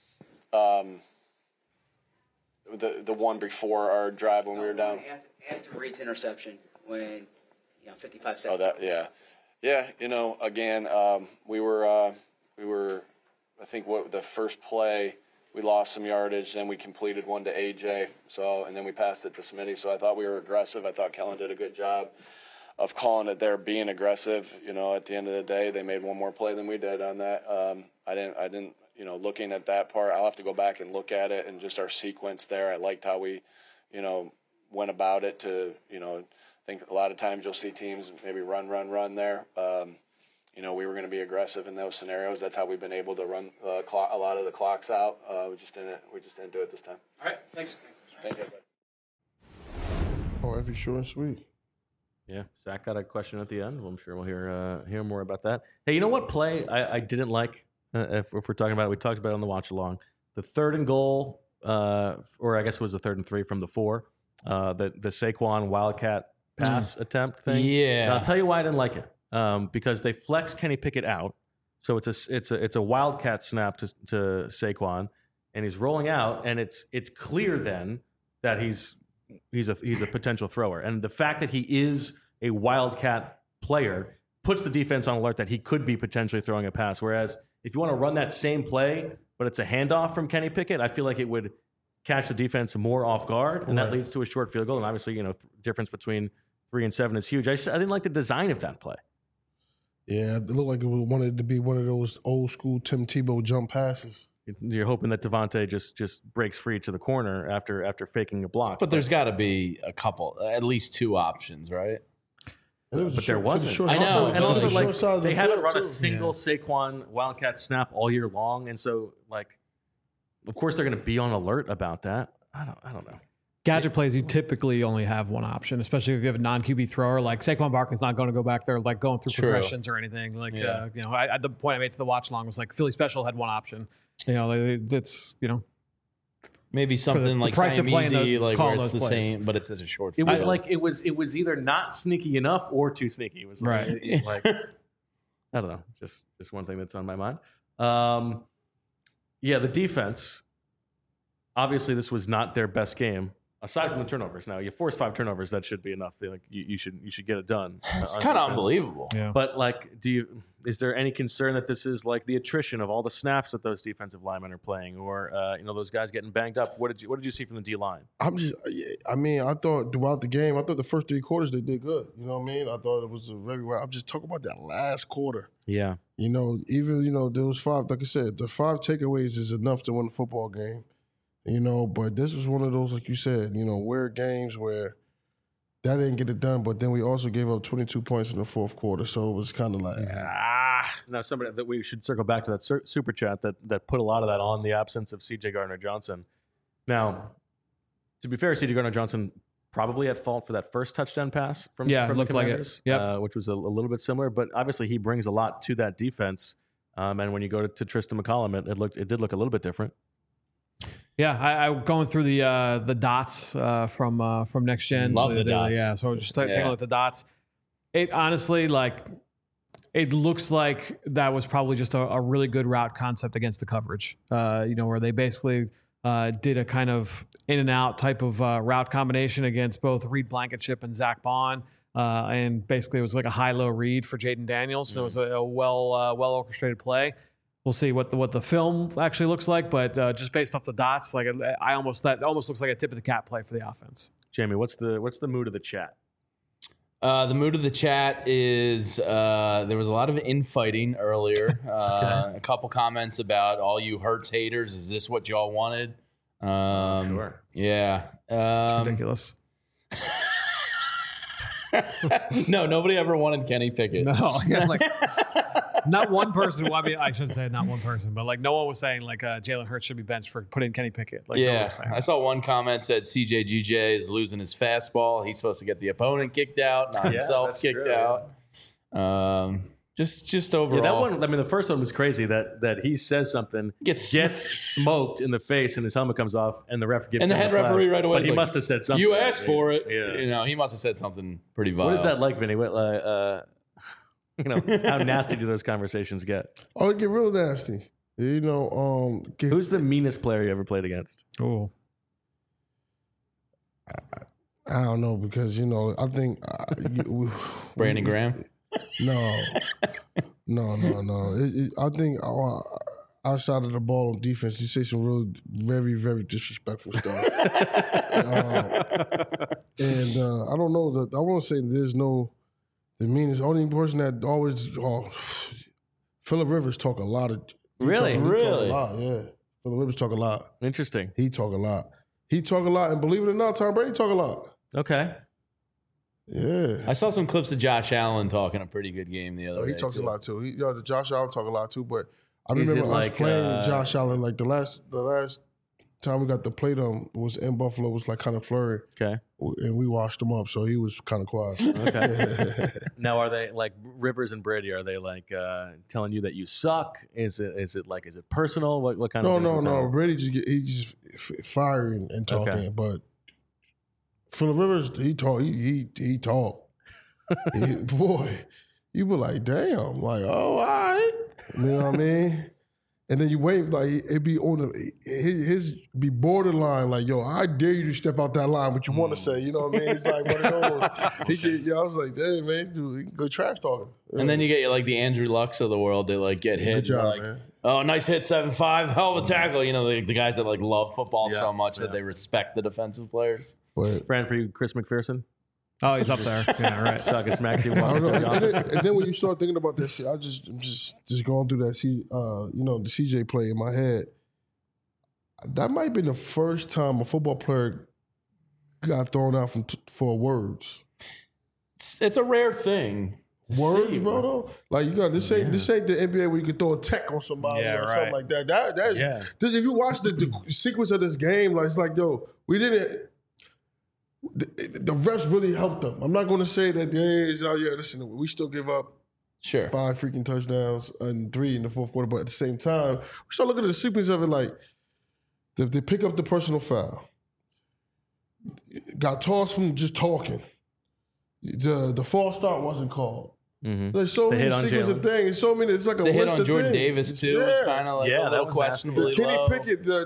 The one before our drive when we were down. After Reed's interception, when 55 seconds. Yeah. Again, we were. I think the first play we lost some yardage, then we completed one to AJ. And then we passed it to Smitty. So I thought we were aggressive. I thought Kellen did a good job of calling it there, being aggressive. At the end of the day, they made one more play than we did on that. I didn't. Looking at that part, I'll have to go back and look at it and just our sequence there. I liked how we, went about it to, I think a lot of times you'll see teams maybe run there. We were going to be aggressive in those scenarios. That's how we've been able to run a lot of the clocks out. We just didn't do it this time. All right, thanks. Thank you. Oh, every short and sweet. Yeah, Zach got a question at the end. Well, I'm sure we'll hear more about that. Hey, you know what play I didn't like? If we're talking about it, we talked about it on the watch along. The 3rd and goal, or I guess it was the 3rd and 3 from the 4. The Saquon Wildcat pass attempt thing. Yeah, and I'll tell you why I didn't like it. Because they flex Kenny Pickett out, so it's a Wildcat snap to Saquon, and he's rolling out, and it's clear then that he's a potential thrower, and the fact that he is a Wildcat player puts the defense on alert that he could be potentially throwing a pass. Whereas if you want to run that same play, but it's a handoff from Kenny Pickett, I feel like it would catch the defense more off guard, and that leads to a short field goal. And obviously, difference between 3 and 7 is huge. I didn't like the design of that play. Yeah, it looked like it wanted to be one of those old school Tim Tebow jump passes. You're hoping that Devontae just breaks free to the corner after faking a block. But there's got to be at least 2 options, right? But there wasn't. I know. And also, like, they haven't run a single Saquon Wildcat snap all year long. And so, like, of course they're going to be on alert about that. I don't know. Gadget plays, you typically only have one option, especially if you have a non-QB thrower. Like Saquon Barkley's not going to go back there like going through progressions or anything. Like, the point I made to the watch along was like Philly Special had one option. It's maybe something like Siamese, like where it's the same, but it's as a short field. It was like it was either not sneaky enough or too sneaky. It was right. Like I don't know, just one thing that's on my mind. Yeah, the defense. Obviously, this was not their best game. Aside from the turnovers, now you force 5 turnovers, that should be enough. Like you should get it done. It's kind of unbelievable. Yeah. But like, is there any concern that this is like the attrition of all the snaps that those defensive linemen are playing, or those guys getting banged up? What did you see from the D line? I thought throughout the game, the first 3 quarters they did good. You know what I mean? I thought it was very well. I'm just talking about that last quarter. Yeah. Even those 5, like I said, the 5 takeaways is enough to win the football game. But this was one of those, like you said, weird games where that didn't get it done, but then we also gave up 22 points in the 4th quarter, so it was kind of like, Now, somebody that we should circle back to that super chat that put a lot of that on the absence of C.J. Gardner-Johnson. Now, to be fair, C.J. Gardner-Johnson probably at fault for that first touchdown pass from the Commanders, which was a little bit similar, but obviously he brings a lot to that defense. And when you go to Tristan McCollum, it did look a little bit different. Yeah, I going through the dots from Next Gen. Love the dots. Yeah, so just taking a look at the dots. It honestly, it looks like that was probably just a really good route concept against the coverage. Where they basically did a kind of in and out type of route combination against both Reed Blankenship and Zach Bond. And basically it was like a high-low read for Jaden Daniels. So it was a well orchestrated play. We'll see what the film actually looks like, but just based off the dots, that almost looks like a tip of the cap play for the offense. Jamie, what's the mood of the chat? The mood of the chat is there was a lot of infighting earlier. A couple comments about all you Hurts haters. Is this what y'all wanted? Sure. Yeah. It's ridiculous. No, nobody ever wanted Kenny Pickett. No, not one person. Well, I mean, I shouldn't say not one person, but no one was saying Jalen Hurts should be benched for putting Kenny Pickett. No one was saying I saw one comment said CJGJ is losing his fastball. He's supposed to get the opponent kicked out, not himself kicked out. Just overall. Yeah, that one. I mean, the first one was crazy. That he says something, gets smoked in the face, and his helmet comes off, and the ref gives. And the head referee right away. But he must have said something. You asked for it. Yeah. He must have said something pretty vile. What is that like, Vinny? How nasty do those conversations get? Oh, it get real nasty. Who's the meanest player you ever played against? Oh, I don't know because I think Brandon Graham. No. I think outside of the ball on defense, you say some real, very, very disrespectful stuff. And I don't know that I want to say there's no. The meanest only person that always Phillip Rivers talk a lot of. Really? Talk a lot, yeah. Phillip Rivers talk a lot. Interesting. He talk a lot, and believe it or not, Tom Brady talk a lot. Okay. Yeah. I saw some clips of Josh Allen talking a pretty good game the other day. He talks a lot too. The Josh Allen talk a lot too, but I remember us playing Josh Allen the last time we got to play them was in Buffalo was kind of flurry. Okay. and we washed him up, so he was kind of quiet. Okay. Now, are they like Rivers and Brady? Are they like telling you that you suck? Is it personal? What kind of? No. Brady he's just fiery and talking, okay. But Phillip Rivers, he talk. He talk. Boy, you be like, damn, like, oh, all right. You know what I mean? And then you wait, like, it be on his be borderline, like, yo, I dare you to step out that line, what you want to say, you know what I mean? It's like one of those. I was like, damn, man, dude, good trash talking. Yeah. And then you get like the Andrew Lucks of the world that like get hit. Good job, like, man. Oh, nice hit, 7-5, hell of a tackle. You know, the guys that like love football so much that they respect the defensive players. Friend for you, Chris McPherson? Oh, he's up there. Yeah, right. Talking smack to you. And then when you start thinking about that shit, I'm just going through that the CJ play in my head. That might have been the first time a football player got thrown out for words. It's a rare thing. Words, bro. Though, like you got this ain't the NBA where you can throw a tech on somebody or something like that. That's if you watch the sequence of this game, like it's like, yo, we didn't. The refs really helped them. I'm not going to say that listen, we still give up 5 freaking touchdowns and 3 in the fourth quarter, but at the same time, we start looking at the sequence of it like they pick up the personal foul, got tossed from just talking. The false start wasn't called. Mm-hmm. There's so many sequences of things. So many. It's like a list of things. The hit on Jordan Davis too was kind of like a little questionable. The Kenny Pickett, I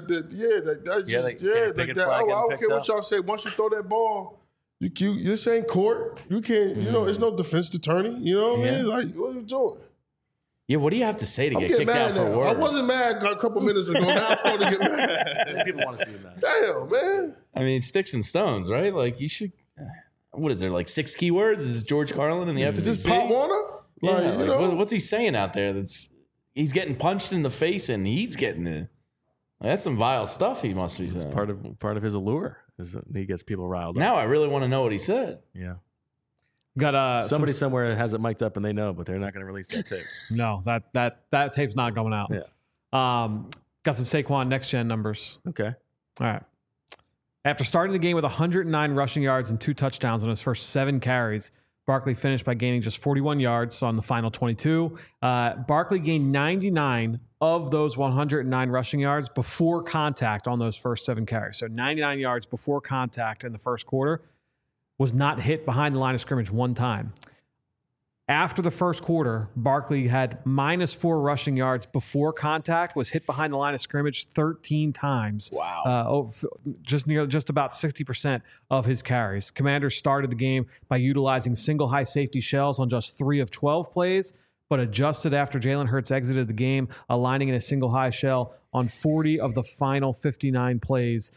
don't care what y'all say. Once you throw that ball, you this ain't court. You can't. You know, it's no defense attorney. You know what I mean? Like, what are you doing? Yeah, what do you have to say to get kicked out for words? I wasn't mad a couple minutes ago. Now I'm starting to get mad. People want to see that. Damn, man. I mean, sticks and stones, right? Like you should. What is there, like 6 keywords? Is this George Carlin in the FCC? Is this Pop Warner? What's he saying out there? He's getting punched in the face and he's getting that's some vile stuff he must be saying. It's part of his allure is that he gets people riled up. Now I really want to know what he said. Yeah. Got somebody somewhere has it mic'd up and they know, but they're not going to release that tape. No, that tape's not going out. Yeah. Got some Saquon next gen numbers. Okay. All right. After starting the game with 109 rushing yards and 2 touchdowns on his first 7 carries, Barkley finished by gaining just 41 yards on the final 22. Barkley gained 99 of those 109 rushing yards before contact on those first 7 carries. So 99 yards before contact in the first quarter, was not hit behind the line of scrimmage one time. After the first quarter, Barkley had -4 rushing yards before contact, was hit behind the line of scrimmage 13 times. Wow. Just about 60% of his carries. Commanders started the game by utilizing single high safety shells on just 3 of 12 plays, but adjusted after Jalen Hurts exited the game, aligning in a single high shell on 40 of the final 59 plays,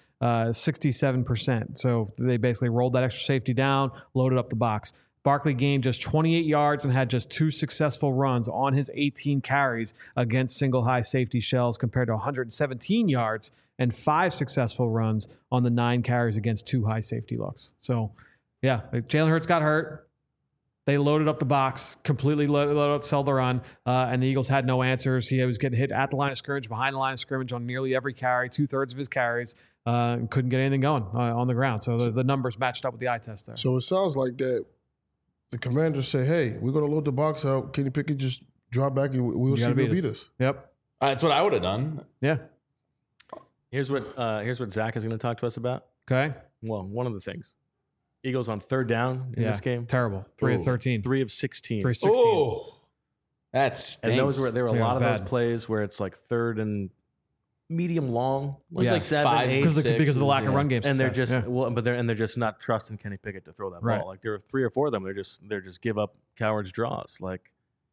67%. So they basically rolled that extra safety down, loaded up the box. Barkley gained just 28 yards and had just 2 successful runs on his 18 carries against single high safety shells compared to 117 yards and 5 successful runs on the 9 carries against 2 high safety looks. So, yeah, Jalen Hurts got hurt. They loaded up the box, completely loaded up, sell the run, and the Eagles had no answers. He was getting hit at the line of scrimmage, behind the line of scrimmage on nearly every carry, 2/3 of his carries, couldn't get anything going on the ground. So the numbers matched up with the eye test there. So it sounds like that. The Commanders say, hey, we're going to load the box out. Kenny Pickett just drop back and we'll see who beat us. Yep. That's what I would have done. Yeah. Here's what Zach is going to talk to us about. Okay. Well, one of the things. Eagles on 3rd down in this game. Terrible. 3 of 13. 3 of 16. 3 of 16. Oh, that's and there were a lot of those plays where it's like 3rd and medium long. It's like 7, 8, because of the lack of run game and success. they're just not trusting Kenny Pickett to throw that ball. Like there are 3 or 4 of them. They're just give up cowards draws. Like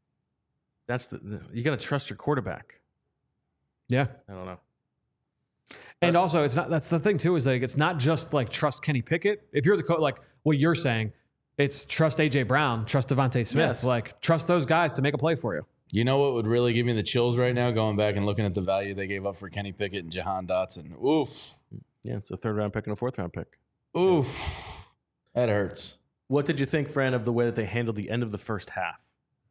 you got to trust your quarterback. Yeah, I don't know. And also, it's not. That's the thing too. Is that it's not just like trust Kenny Pickett. If you're the coach, like what you're saying, it's trust AJ Brown, trust Devontae Smith. Yes. Like trust those guys to make a play for you. You know what would really give me the chills right now? Going back and looking at the value they gave up for Kenny Pickett and Jahan Dotson. Oof. Yeah, it's a 3rd round pick and a 4th round pick. Oof. That hurts. What did you think, Fran, of the way that they handled the end of the first half?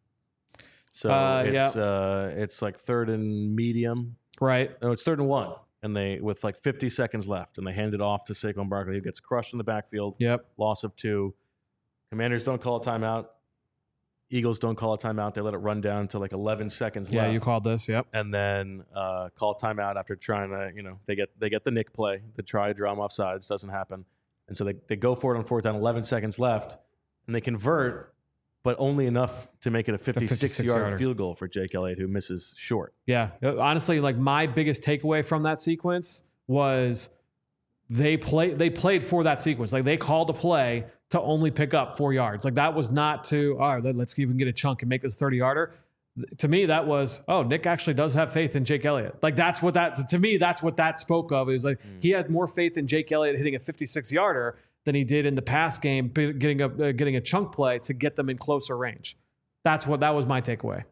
So it's like 3rd and medium. Right. No, it's 3rd and 1. and with like 50 seconds left, and they hand it off to Saquon Barkley, who gets crushed in the backfield. Yep. Loss of 2. Commanders don't call a timeout. Eagles don't call a timeout. They let it run down to like 11 seconds left. Yeah, you called this. Yep. And then call a timeout after trying to, they get the Nick play to try to draw them off sides. Doesn't happen. And so they go for it on 4th down, 11 seconds left, and they convert, but only enough to make it a 56-yard field goal for Jake Elliott, who misses short. Yeah. Honestly, like my biggest takeaway from that sequence was they played for that sequence. Like they called a play to only pick up 4 yards. Like that was not to, all right, let's see if we can get a chunk and make this 30-yarder. To me, that was, Nick actually does have faith in Jake Elliott. Like that's what that spoke of. It was like he had more faith in Jake Elliott hitting a 56-yarder than he did in the past game, getting a chunk play to get them in closer range. That was my takeaway.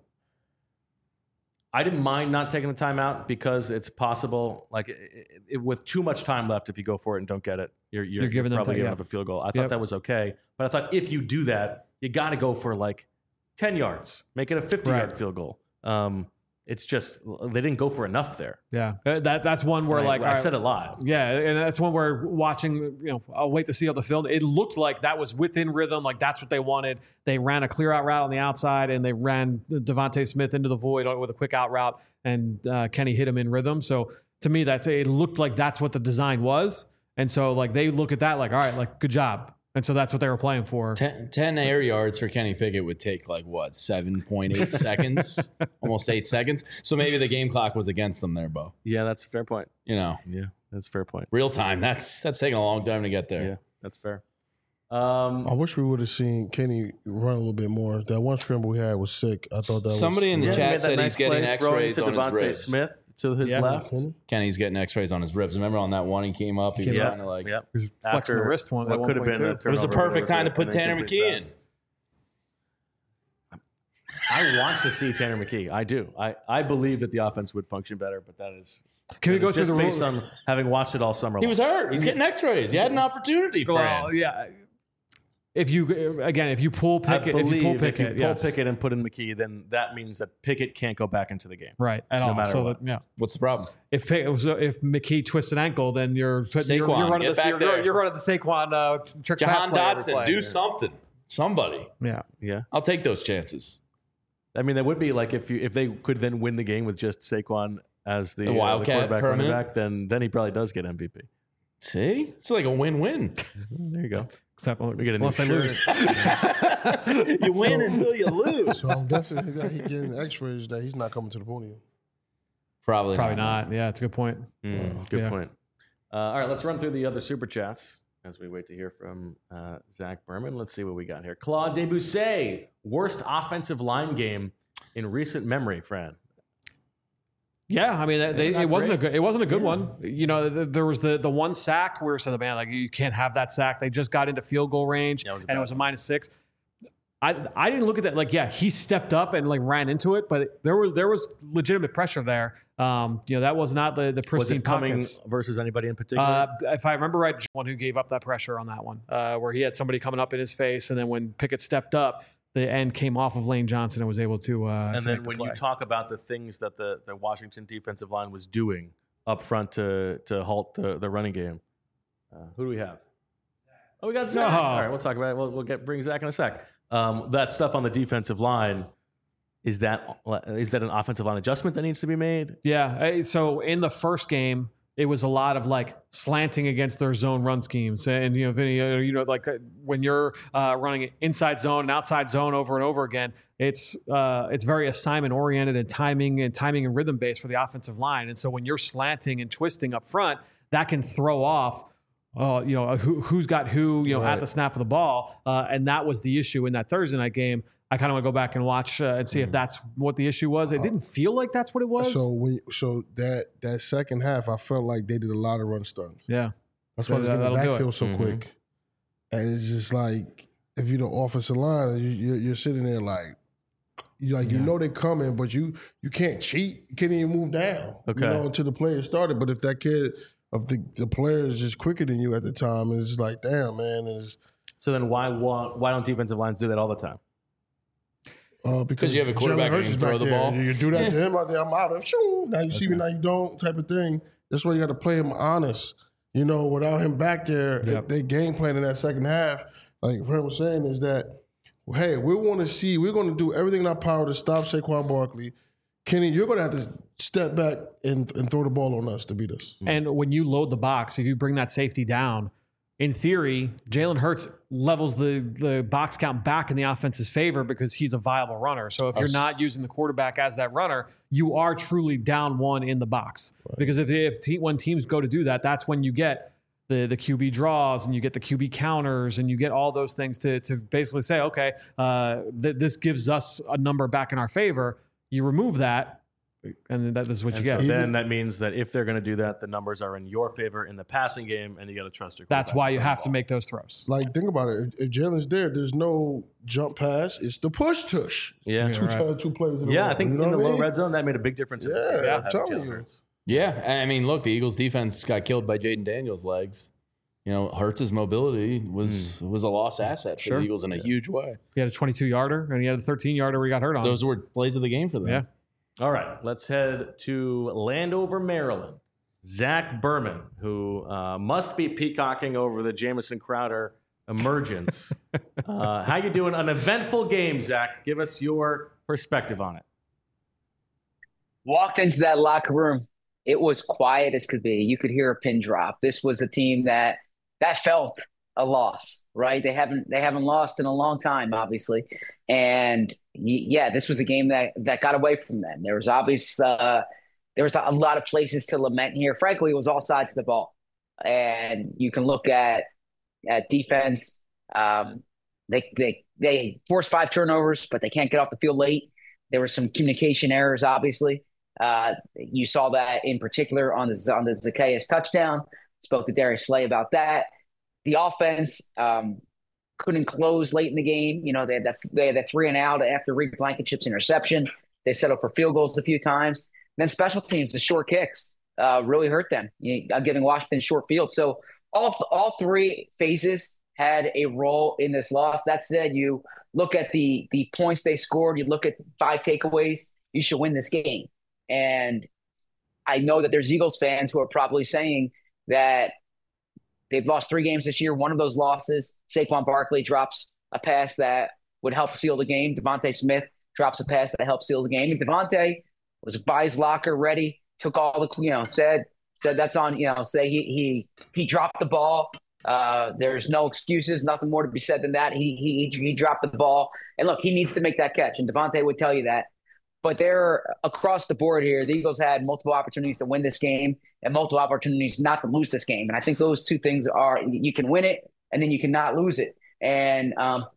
I didn't mind not taking the timeout because it's possible, like with too much time left, if you go for it and don't get it, you're giving probably giving up a field goal. I thought that was okay, but I thought if you do that, you got to go for like 10 yards, make it a 50-yard field goal. It's just they didn't go for enough there. Yeah, that's one where I said it live. Yeah, and that's one where watching. I'll wait to see how the film. It looked like that was within rhythm. Like that's what they wanted. They ran a clear out route on the outside, and they ran Devontae Smith into the void with a quick out route, and Kenny hit him in rhythm. So to me, it looked like that's what the design was. And so like they look at that like, all right, like good job. And so that's what they were playing for. 10 air yards for Kenny Pickett would take like what, 7.8 seconds? Almost 8 seconds. So maybe the game clock was against them there, Bo. Yeah, that's a fair point. Yeah, that's a fair point. Real time. That's taking a long time to get there. Yeah, that's fair. I wish we would have seen Kenny run a little bit more. That one scramble we had was sick. I thought that somebody in the chat said he's getting X-rays on his ribs. Smith to his left. Kenny's getting X-rays on his ribs. Remember on that one he came up, he was trying to like he was flexing the wrist one. What could have been it was the perfect time to put Tanner McKee in. I want to see Tanner McKee. I do. I believe that the offense would function better, but that is Can we go through the based on having watched it all summer long. He was hurt. He's getting X-rays. You had an opportunity, Fran. Well, yeah. If you pull Pickett, if you pull Pickett and put in McKee, then that means that Pickett can't go back into the game, right? At all. Matter what. What's the problem? If McKee twists an ankle, then you're running the Saquon trick pass Jahan Dotson, do something. Somebody. Yeah. I'll take those chances. I mean, that would be like if they could then win the game with just Saquon as the Wildcat quarterback running back, then he probably does get MVP. See, it's like a win-win. There you go. Except we get a unless they lose. You win until you lose. So I'm guessing he's getting X-rays that he's not coming to the podium. Probably not. Yeah, it's a good point. Good point. All right, let's run through the other super chats as we wait to hear from Zach Berman. Let's see what we got here. Claude Debussy, worst offensive line game in recent memory, Fran. Yeah, I mean, it wasn't a good one. There was the one sack where we said, man, like you can't have that sack. They just got into field goal range, and it was a -6. I didn't look at that like, yeah, he stepped up and like ran into it, but there was legitimate pressure there. That was not the pristine pockets. Versus anybody in particular. If I remember right, one who gave up that pressure on that one, where he had somebody coming up in his face, and then when Pickett stepped up, the end came off of Lane Johnson and was able to. And then when you talk about the things that the Washington defensive line was doing up front to halt the running game, who do we have? Oh, we got Zach. All right, we'll talk about it. We'll bring Zach in a sec. That stuff on the defensive line, is that an offensive line adjustment that needs to be made? Yeah. So in the first game, it was a lot of like slanting against their zone run schemes. And, Vinny, like when you're running inside zone and outside zone over and over again, it's very assignment oriented and timing and rhythm based for the offensive line. And so when you're slanting and twisting up front, that can throw off, who's got who, right, at the snap of the ball. And that was the issue in that Thursday night game. I kind of want to go back and watch and see if that's what the issue was. It didn't feel like that's what it was. So that second half, I felt like they did a lot of run stunts. Yeah, that's why they get the backfield so quick. And it's just like if you're the offensive line, you're sitting there like they're coming, but you can't cheat. You can't even move down. Okay, until the player started. But if that kid of the player is just quicker than you at the time, it's just like, damn, man. So then why don't defensive lines do that all the time? Because you have a quarterback who can throw the ball. You do that to him out there, I'm out of. Now you see me, now you don't, type of thing. That's why you got to play him honest. You know, without him back there, they game plan in that second half, like Fred was saying, is that, hey, we're going to do everything in our power to stop Saquon Barkley. Kenny, you're going to have to step back and throw the ball on us to beat us. And when you load the box, if you bring that safety down, in theory, Jalen Hurts levels the box count back in the offense's favor because he's a viable runner. So if you're not using the quarterback as that runner, you are truly down one in the box. Right. Because when teams go to do that, that's when you get the QB draws and you get the QB counters and you get all those things to basically say, okay, this gives us a number back in our favor. You remove that, and that is what you get. So then that means that if they're going to do that, the numbers are in your favor in the passing game, and you got to trust your quarterback. That's why you have to make those throws. Like, think about it. If Jalen's there's no jump pass. It's the push tush. Yeah. Two plays in a row. I think in the low red zone, that made a big difference. In this game. I'm telling you. Yeah, I mean, look, the Eagles' defense got killed by Jaden Daniels' legs. You know, Hurts' mobility was a lost asset for the Eagles in a huge way. He had a 22-yarder, and he had a 13-yarder where he got hurt on. Those were plays of the game for them. Yeah. All right, let's head to Landover, Maryland. Zach Berman, who must be peacocking over the Jamison Crowder emergence. How you doing? An eventful game, Zach. Give us your perspective on it. Walked into that locker room. It was quiet as could be. You could hear a pin drop. This was a team that felt a loss, right? They haven't lost in a long time, obviously. And this was a game that got away from them. There was there was a lot of places to lament here. Frankly, it was all sides of the ball. And you can look at defense. They forced 5 turnovers, but they can't get off the field late. There were some communication errors, obviously. You saw that in particular on the Zacchaeus touchdown. Spoke to Darius Slay about that. The offense couldn't close late in the game. You know, they had that 3 and out after Reed Blankenship's interception. They settled for field goals a few times. And then special teams, the short kicks really hurt them, giving Washington short field. So all 3 phases had a role in this loss. That said, you look at the points they scored, you look at 5 takeaways, you should win this game. And I know that there's Eagles fans who are probably saying that they've lost 3 games this year. One of those losses, Saquon Barkley drops a pass that would help seal the game. Devontae Smith drops a pass that helped seal the game. And Devontae was by his locker, ready, took all the, said that's on, say he dropped the ball. There's no excuses, nothing more to be said than that. He dropped the ball. And look, he needs to make that catch. And Devontae would tell you that. But they're across the board here. The Eagles had multiple opportunities to win this game and multiple opportunities not to lose this game. And I think those 2 things are, you can win it and then you cannot lose it. And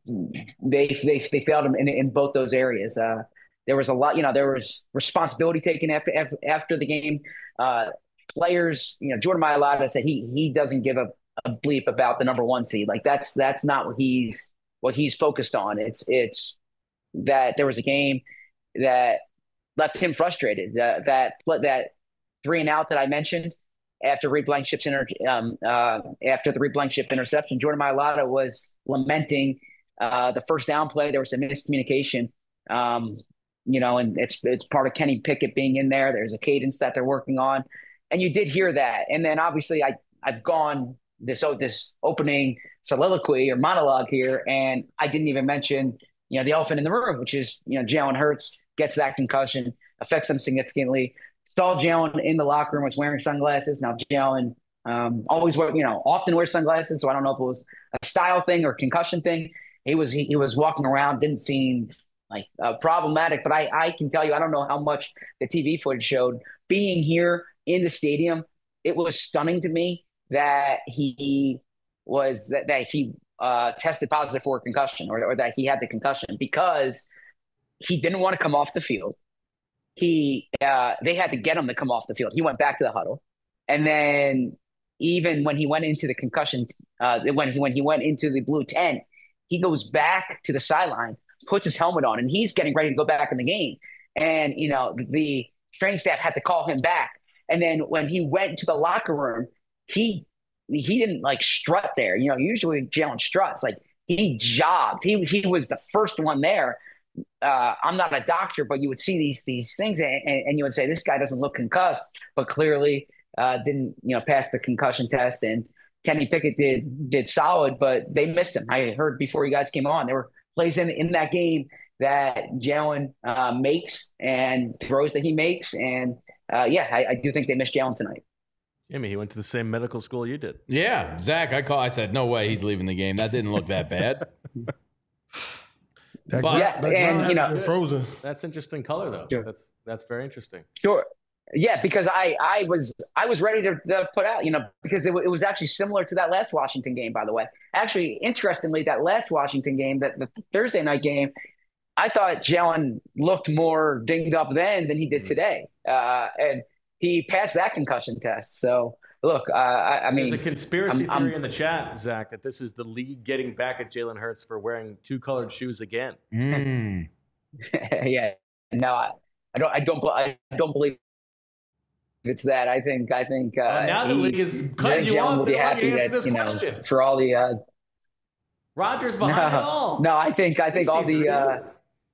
they failed them in both those areas. There was a lot, there was responsibility taken after the game. Players, Jordan Mailata said he doesn't give a bleep about the number 1 seed. Like that's not what he's focused on. It's that there was a game that left him frustrated. That 3 and out that I mentioned after Reed Blankenship's after the Reed Blankenship interception, Jordan Mailata was lamenting the first down play. There was some miscommunication, and it's part of Kenny Pickett being in there. There's a cadence that they're working on, and you did hear that. And then obviously I've gone this opening soliloquy or monologue here, and I didn't even mention the elephant in the room, which is Jalen Hurts gets that concussion, affects him significantly. Saw Jalen in the locker room, was wearing sunglasses. Now Jalen often wears sunglasses, so I don't know if it was a style thing or concussion thing. He was walking around, didn't seem like problematic, but I can tell you, I don't know how much the TV footage showed. Being here in the stadium, it was stunning to me that he tested positive for a concussion or that he had the concussion because he didn't want to come off the field. They had to get him to come off the field. He went back to the huddle. And then even when he went into the concussion, when he went into the blue tent, he goes back to the sideline, puts his helmet on, and he's getting ready to go back in the game. And, the training staff had to call him back. And then when he went to the locker room, he didn't strut there. Usually Jalen struts. He jogged. He was the first one there. I'm not a doctor, but you would see these things and you would say, this guy doesn't look concussed, but clearly didn't pass the concussion test, and Kenny Pickett did solid, but they missed him. I heard before you guys came on, there were plays in that game that Jalen makes and throws that he makes, and I do think they missed Jalen tonight. Jimmy, he went to the same medical school you did. Yeah, Zach, I said, no way he's leaving the game. That didn't look that bad. Frozen. That's interesting color, though. Sure. That's very interesting. Sure. Yeah, because I was ready to put out, because it was actually similar to that last Washington game, by the way. Actually, interestingly, that last Washington game, the Thursday night game, I thought Jalen looked more dinged up then than he did today. And he passed that concussion test. So, look, I mean. There's a conspiracy theory in the chat, Zach, that this is the league getting back at Jalen Hurts for wearing two-colored shoes again. Yeah. No, I don't believe it's that. I think. Now the league is cutting you off. They want you to answer this question. For all the. Rodgers behind it all. No, I think all the.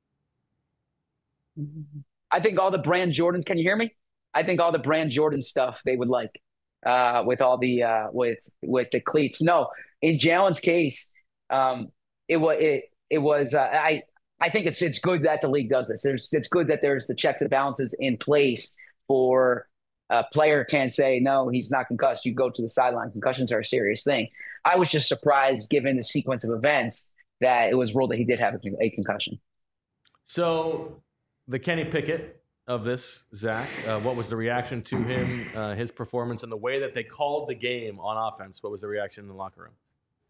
I think all the brand Jordans. Can you hear me? I think all the brand Jordan stuff they would like, with all the with the cleats. No, in Jalen's case, it was. I think it's good that the league does this. It's good that there's the checks and balances in place for a player can't say, no, he's not concussed. You go to the sideline. Concussions are a serious thing. I was just surprised, given the sequence of events, that it was ruled that he did have a concussion. So the Kenny Pickett of this, Zach, what was the reaction to him, his performance, and the way that they called the game on offense? What was the reaction in the locker room?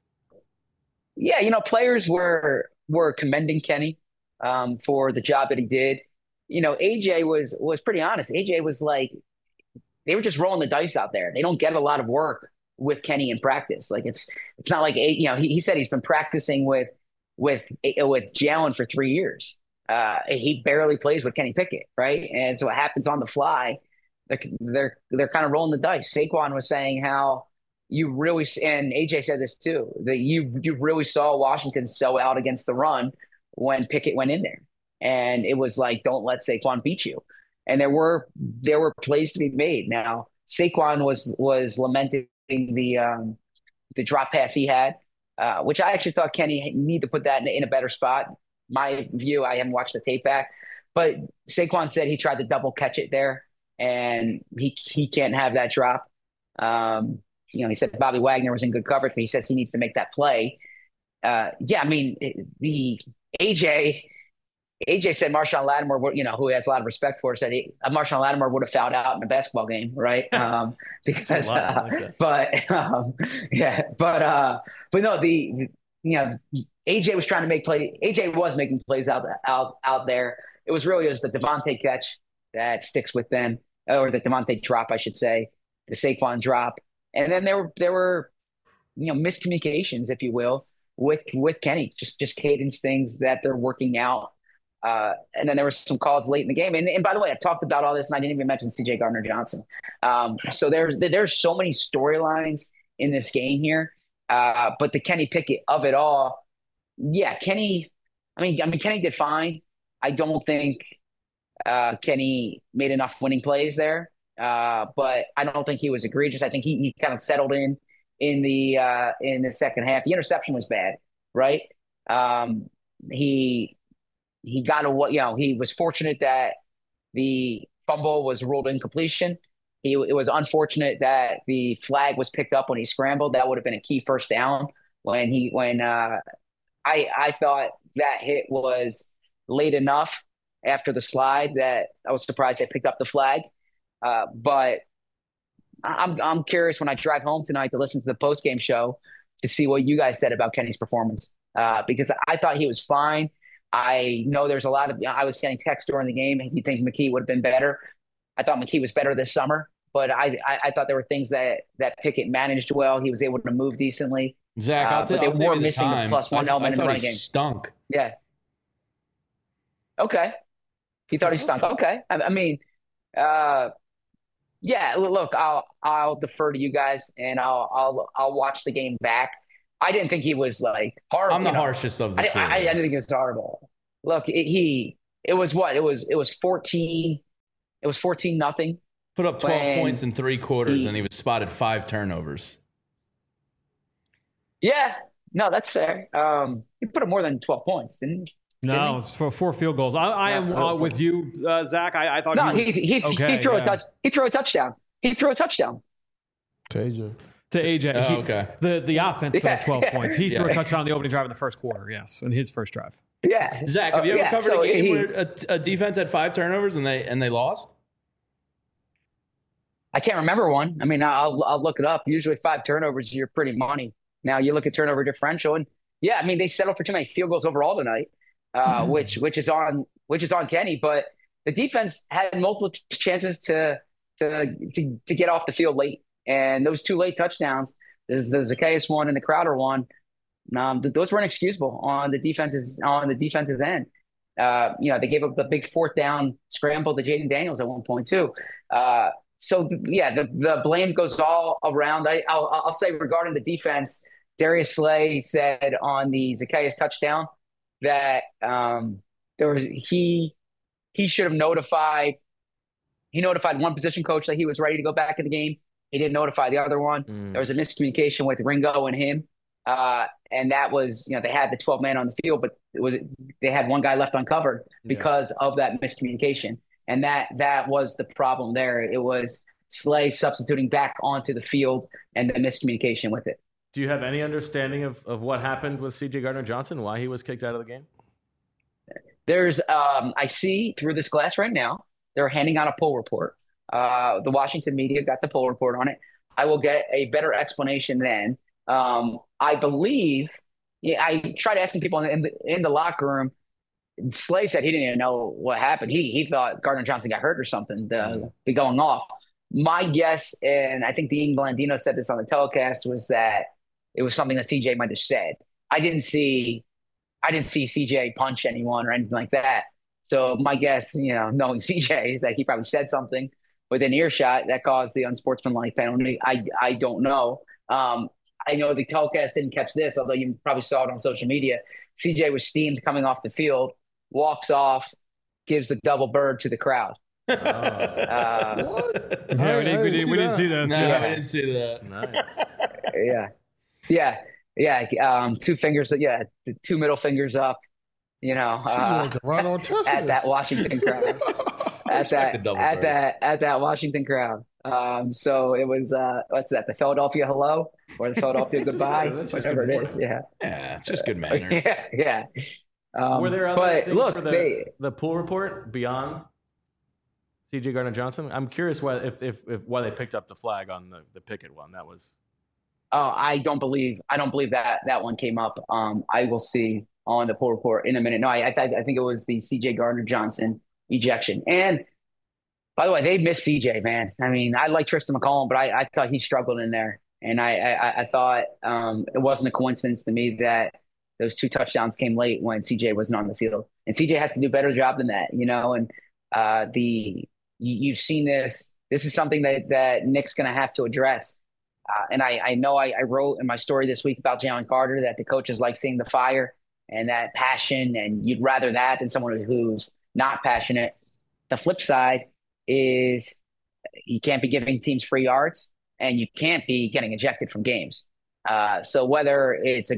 Yeah, players were commending Kenny for the job that he did. AJ was pretty honest. AJ was like, they were just rolling the dice out there. They don't get a lot of work with Kenny in practice. Like it's not like, he said he's been practicing with Jalen for 3 years. He barely plays with Kenny Pickett, right? And so it happens on the fly. They're kind of rolling the dice. Saquon was saying how you really, and AJ said this too, that you really saw Washington sell out against the run when Pickett went in there. And it was like, don't let Saquon beat you. And there were plays to be made. Now, Saquon was lamenting the drop pass he had, which I actually thought Kenny needed to put that in a better spot. My view, I haven't watched the tape back, but Saquon said he tried to double catch it there, and he can't have that drop. He said Bobby Wagner was in good coverage, but he says he needs to make that play. The AJ said Marshawn Lattimore, who has a lot of respect for, said Marshawn Lattimore would have fouled out in a basketball game, right? Because, but no, AJ was trying to make play. AJ was making plays out there. It was really the Devontae catch that sticks with them, or the Devontae drop, I should say, the Saquon drop, and then there were miscommunications, if you will, with Kenny, just cadence things that they're working out. And then there were some calls late in the game. And by the way, I've talked about all this, and I didn't even mention CJ Gardner-Johnson. So there's so many storylines in this game here. But the Kenny Pickett of it all, Kenny did fine. I don't think Kenny made enough winning plays there. But I don't think he was egregious. I think he kind of settled in the second half. The interception was bad, right? He got he was fortunate that the fumble was ruled incompletion. It was unfortunate that the flag was picked up when he scrambled. That would have been a key first down I thought that hit was late enough after the slide that I was surprised they picked up the flag. But I'm curious when I drive home tonight to listen to the post-game show to see what you guys said about Kenny's performance, because I thought he was fine. I know there's a lot of – I was getting texts during the game. You think McKee would have been better? I thought McKee was better this summer, but I thought there were things that Pickett managed well. He was able to move decently. Zach, but they were missing the +1 element in the running game. Stunk. Yeah. Okay. He thought he stunk. Okay. Look, I'll defer to you guys, and I'll watch the game back. I didn't think he was like horrible. I'm the harshest of the two. I didn't think he was horrible. Look, it was what? It was 14. It was 14-0 Put up 12 points in 3 quarters, and he was spotted 5 turnovers. Yeah, no, that's fair. He put up more than 12 points, didn't he? No, it's for 4 field goals. I am with you, Zach. I thought he threw a touch. He threw a touchdown. He threw a touchdown. KJ. To AJ. Okay. The offense put up 12 points. He threw a touchdown on the opening drive in the first quarter, yes, in his first drive. Yeah. Zach, have you ever covered a game where a defense had 5 turnovers and they lost? I can't remember one. I mean, I'll look it up. Usually 5 turnovers, you're pretty money. Now you look at turnover differential, and yeah, I mean they settled for too many field goals overall tonight, which is on Kenny. But the defense had multiple chances to get off the field late, and those 2 late touchdowns, the Zacchaeus one and the Crowder one, those were inexcusable on the defensive end. They gave up the big 4th down scramble to Jaden Daniels at one point too. So the blame goes all around. I'll say regarding the defense, Darius Slay said on the Zacchaeus touchdown that he should have notified. He notified one position coach that he was ready to go back in the game. He didn't notify the other one. There was a miscommunication with Ringo and him, and that was they had the 12 man on the field, but they had one guy left uncovered because of that miscommunication. And that was the problem there. It was Slay substituting back onto the field and the miscommunication with it. Do you have any understanding of what happened with C.J. Gardner-Johnson, why he was kicked out of the game? There's I see through this glass right now, they're handing out a poll report. The Washington media got the poll report on it. I will get a better explanation then. I believe, I tried asking people in the locker room. Slay said he didn't even know what happened. He thought Gardner-Johnson got hurt or something to be going off. My guess, and I think Dean Blandino said this on the telecast, was that it was something that CJ might have said. I didn't see CJ punch anyone or anything like that. So my guess, knowing CJ, is that he probably said something within earshot that caused the unsportsmanlike penalty. I don't know. I know the telecast didn't catch this, although you probably saw it on social media. CJ was steamed coming off the field, walks off, gives the double bird to the crowd. What? Yeah, we didn't see this. No, I didn't see that. Nice. Yeah. 2 fingers. Yeah, 2 middle fingers up. Like at that Washington crowd. at that Washington crowd. So it was what's that? The Philadelphia hello or the Philadelphia goodbye, whatever it is. Yeah, it's just good manners. Yeah. Were there other things for the pool report beyond C.J. Gardner-Johnson? I'm curious why they picked up the flag on the Pickett one. That was. Oh, I don't believe that one came up. I will see on the pool report in a minute. No, I think it was the C.J. Gardner-Johnson ejection. And by the way, they missed CJ, man. I mean, I like Tristan McCollum, but I thought he struggled in there. And I thought it wasn't a coincidence to me that those 2 touchdowns came late when CJ wasn't on the field. And CJ has to do a better job than that, and you've seen this. This is something that Nick's going to have to address. And I know I wrote in my story this week about Jalen Carter that the coaches like seeing the fire and that passion, and you'd rather that than someone who's not passionate. The flip side is you can't be giving teams free yards, and you can't be getting ejected from games. So whether it's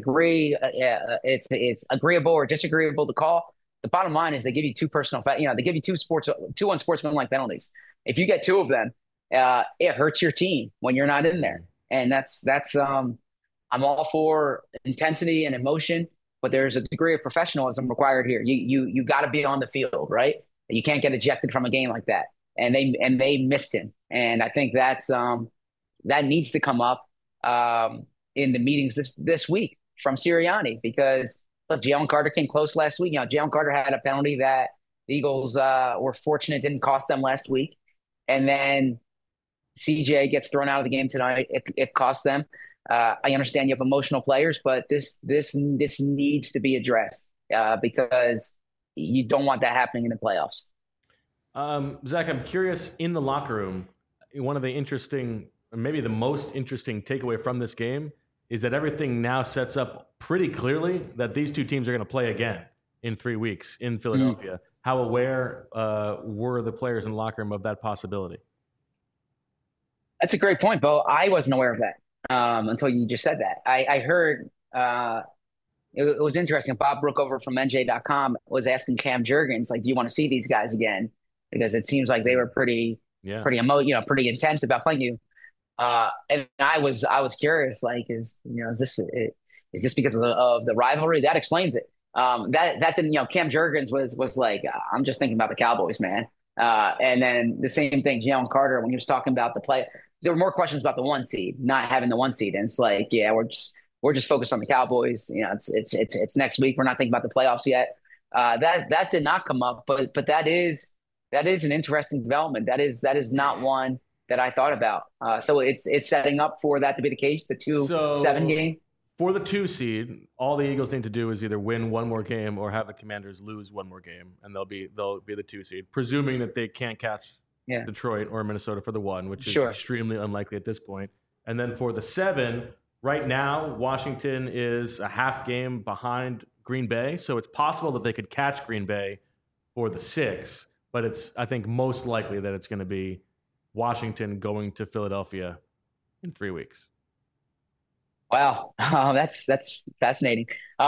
it's agreeable or disagreeable to call, the bottom line is they give you 2 they give you 2 unsportsmanlike penalties. If you get 2 of them, it hurts your team when you're not in there. And that's I'm all for intensity and emotion, but there's a degree of professionalism required here. You got to be on the field, right? You can't get ejected from a game like that. And they missed him. And I think that needs to come up in the meetings this week from Sirianni, because look, Jalen Carter came close last week. Jalen Carter had a penalty that the Eagles were fortunate didn't cost them last week. And then CJ gets thrown out of the game tonight. It cost them. I understand you have emotional players, but this needs to be addressed because you don't want that happening in the playoffs. Zach, I'm curious, in the locker room, one of the interesting, maybe the most interesting takeaway from this game is that everything now sets up pretty clearly that these 2 teams are going to play again in 3 weeks in Philadelphia. How aware were the players in the locker room of that possibility? That's a great point, Bo. I wasn't aware of that until you just said that. I heard it was interesting. Bob Brookover from NJ.com was asking Cam Jurgens, like, do you want to see these guys again? Because it seems like they were pretty intense about playing you. And I was curious, like, is this because of the rivalry? That explains it. That didn't, Cam Jurgens was like, I'm just thinking about the Cowboys, man. And then the same thing, Jalen Carter, when he was talking about the play, there were more questions about the 1 seed, not having the 1 seed. And it's like, yeah, we're just focused on the Cowboys. It's next week. We're not thinking about the playoffs yet. That did not come up, but that is an interesting development. That is not one that I thought about. So it's setting up for that to be the case, the 2-7 game. For the 2 seed, all the Eagles need to do is either win one more game or have the Commanders lose one more game, and they'll be the 2 seed, presuming that they can't catch Detroit or Minnesota for the 1, which is extremely unlikely at this point. And then for the 7, right now, Washington is a half game behind Green Bay, so it's possible that they could catch Green Bay for the 6, but it's, I think, most likely that it's going to be Washington going to Philadelphia in 3 weeks. Wow, that's fascinating.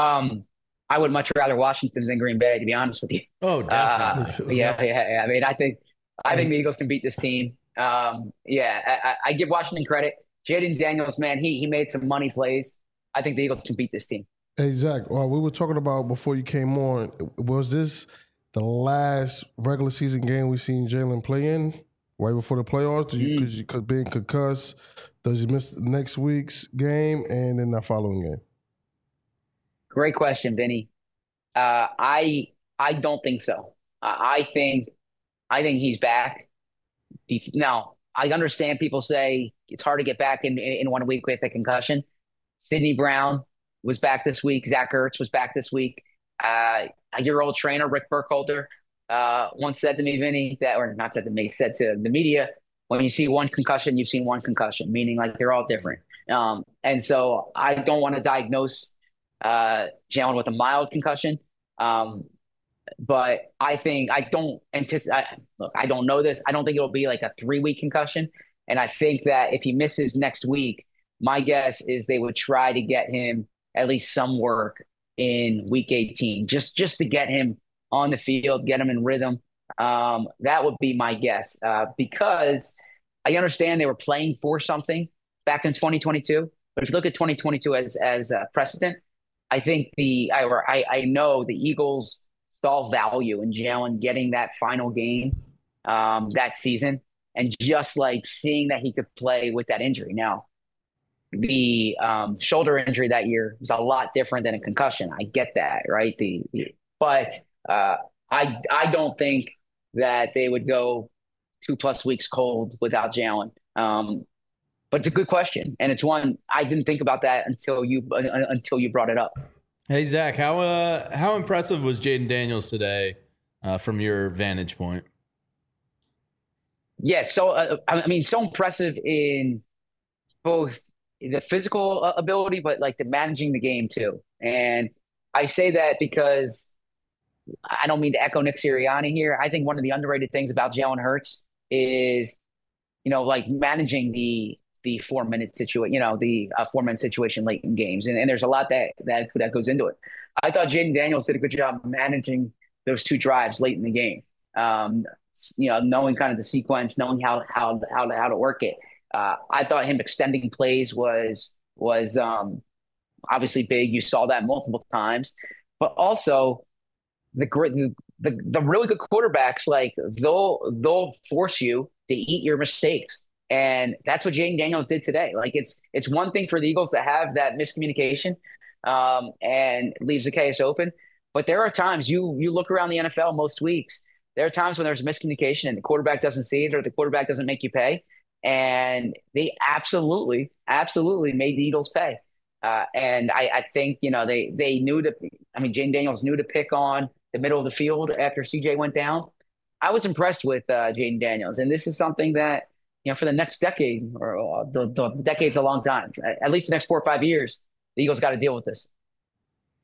I would much rather Washington than Green Bay, to be honest with you. Oh, definitely. Yeah. I mean, I think the Eagles can beat this team. I give Washington credit. Jaden Daniels, man, he made some money plays. I think the Eagles can beat this team. Hey, Zach, we were talking about before you came on, was this the last regular season game we seen Jalen play in right before the playoffs? Because you could be concussed. Does he miss next week's game and then the following game? Great question, Vinny. I don't think so. I think he's back. Now, I understand people say it's hard to get back in 1 week with a concussion. Sidney Brown was back this week. Zach Ertz was back this week. Your old trainer, Rick Burkholder, once said to me, Vinny, said to the media, when you see one concussion, you've seen one concussion, meaning like they're all different. And so I don't want to diagnose Jalen with a mild concussion. But I don't anticipate, I don't know this. I don't think it'll be like a 3-week concussion. And I think that if he misses next week, my guess is they would try to get him at least some work in week 18, just to get him on the field, get him in rhythm. That would be my guess, because I understand they were playing for something back in 2022. But if you look at 2022 as a precedent, I think I know the Eagles saw value in Jalen getting that final game that season, and just like seeing that he could play with that injury. Now, the shoulder injury that year is a lot different than a concussion. I get that, right? But I don't think that they would go 2+ weeks cold without Jalen. But it's a good question, and it's one I didn't think about that until you brought it up. Hey Zach, how impressive was Jaden Daniels today from your vantage point? Yeah, so so impressive in both the physical ability, but like the managing the game too. And I say that because I don't mean to echo Nick Sirianni here. I think one of the underrated things about Jalen Hurts is, like managing the 4-minute situation, the 4-minute situation late in games. And there's a lot that goes into it. I thought Jaden Daniels did a good job managing those 2 drives late in the game. Knowing kind of the sequence, knowing how to work it. I thought him extending plays was obviously big. You saw that multiple times, but also the really good quarterbacks, like they'll force you to eat your mistakes. And that's what Jaden Daniels did today. Like it's one thing for the Eagles to have that miscommunication and leaves the case open. But there are times you look around the NFL most weeks, there are times when there's miscommunication and the quarterback doesn't see it or the quarterback doesn't make you pay. And they absolutely made the Eagles pay. And I think, they knew Jaden Daniels knew to pick on the middle of the field after CJ went down. I was impressed with Jaden Daniels. And this is something that, for the next decade or the decade's a long time, at least the next 4 or 5 years, the Eagles got to deal with this.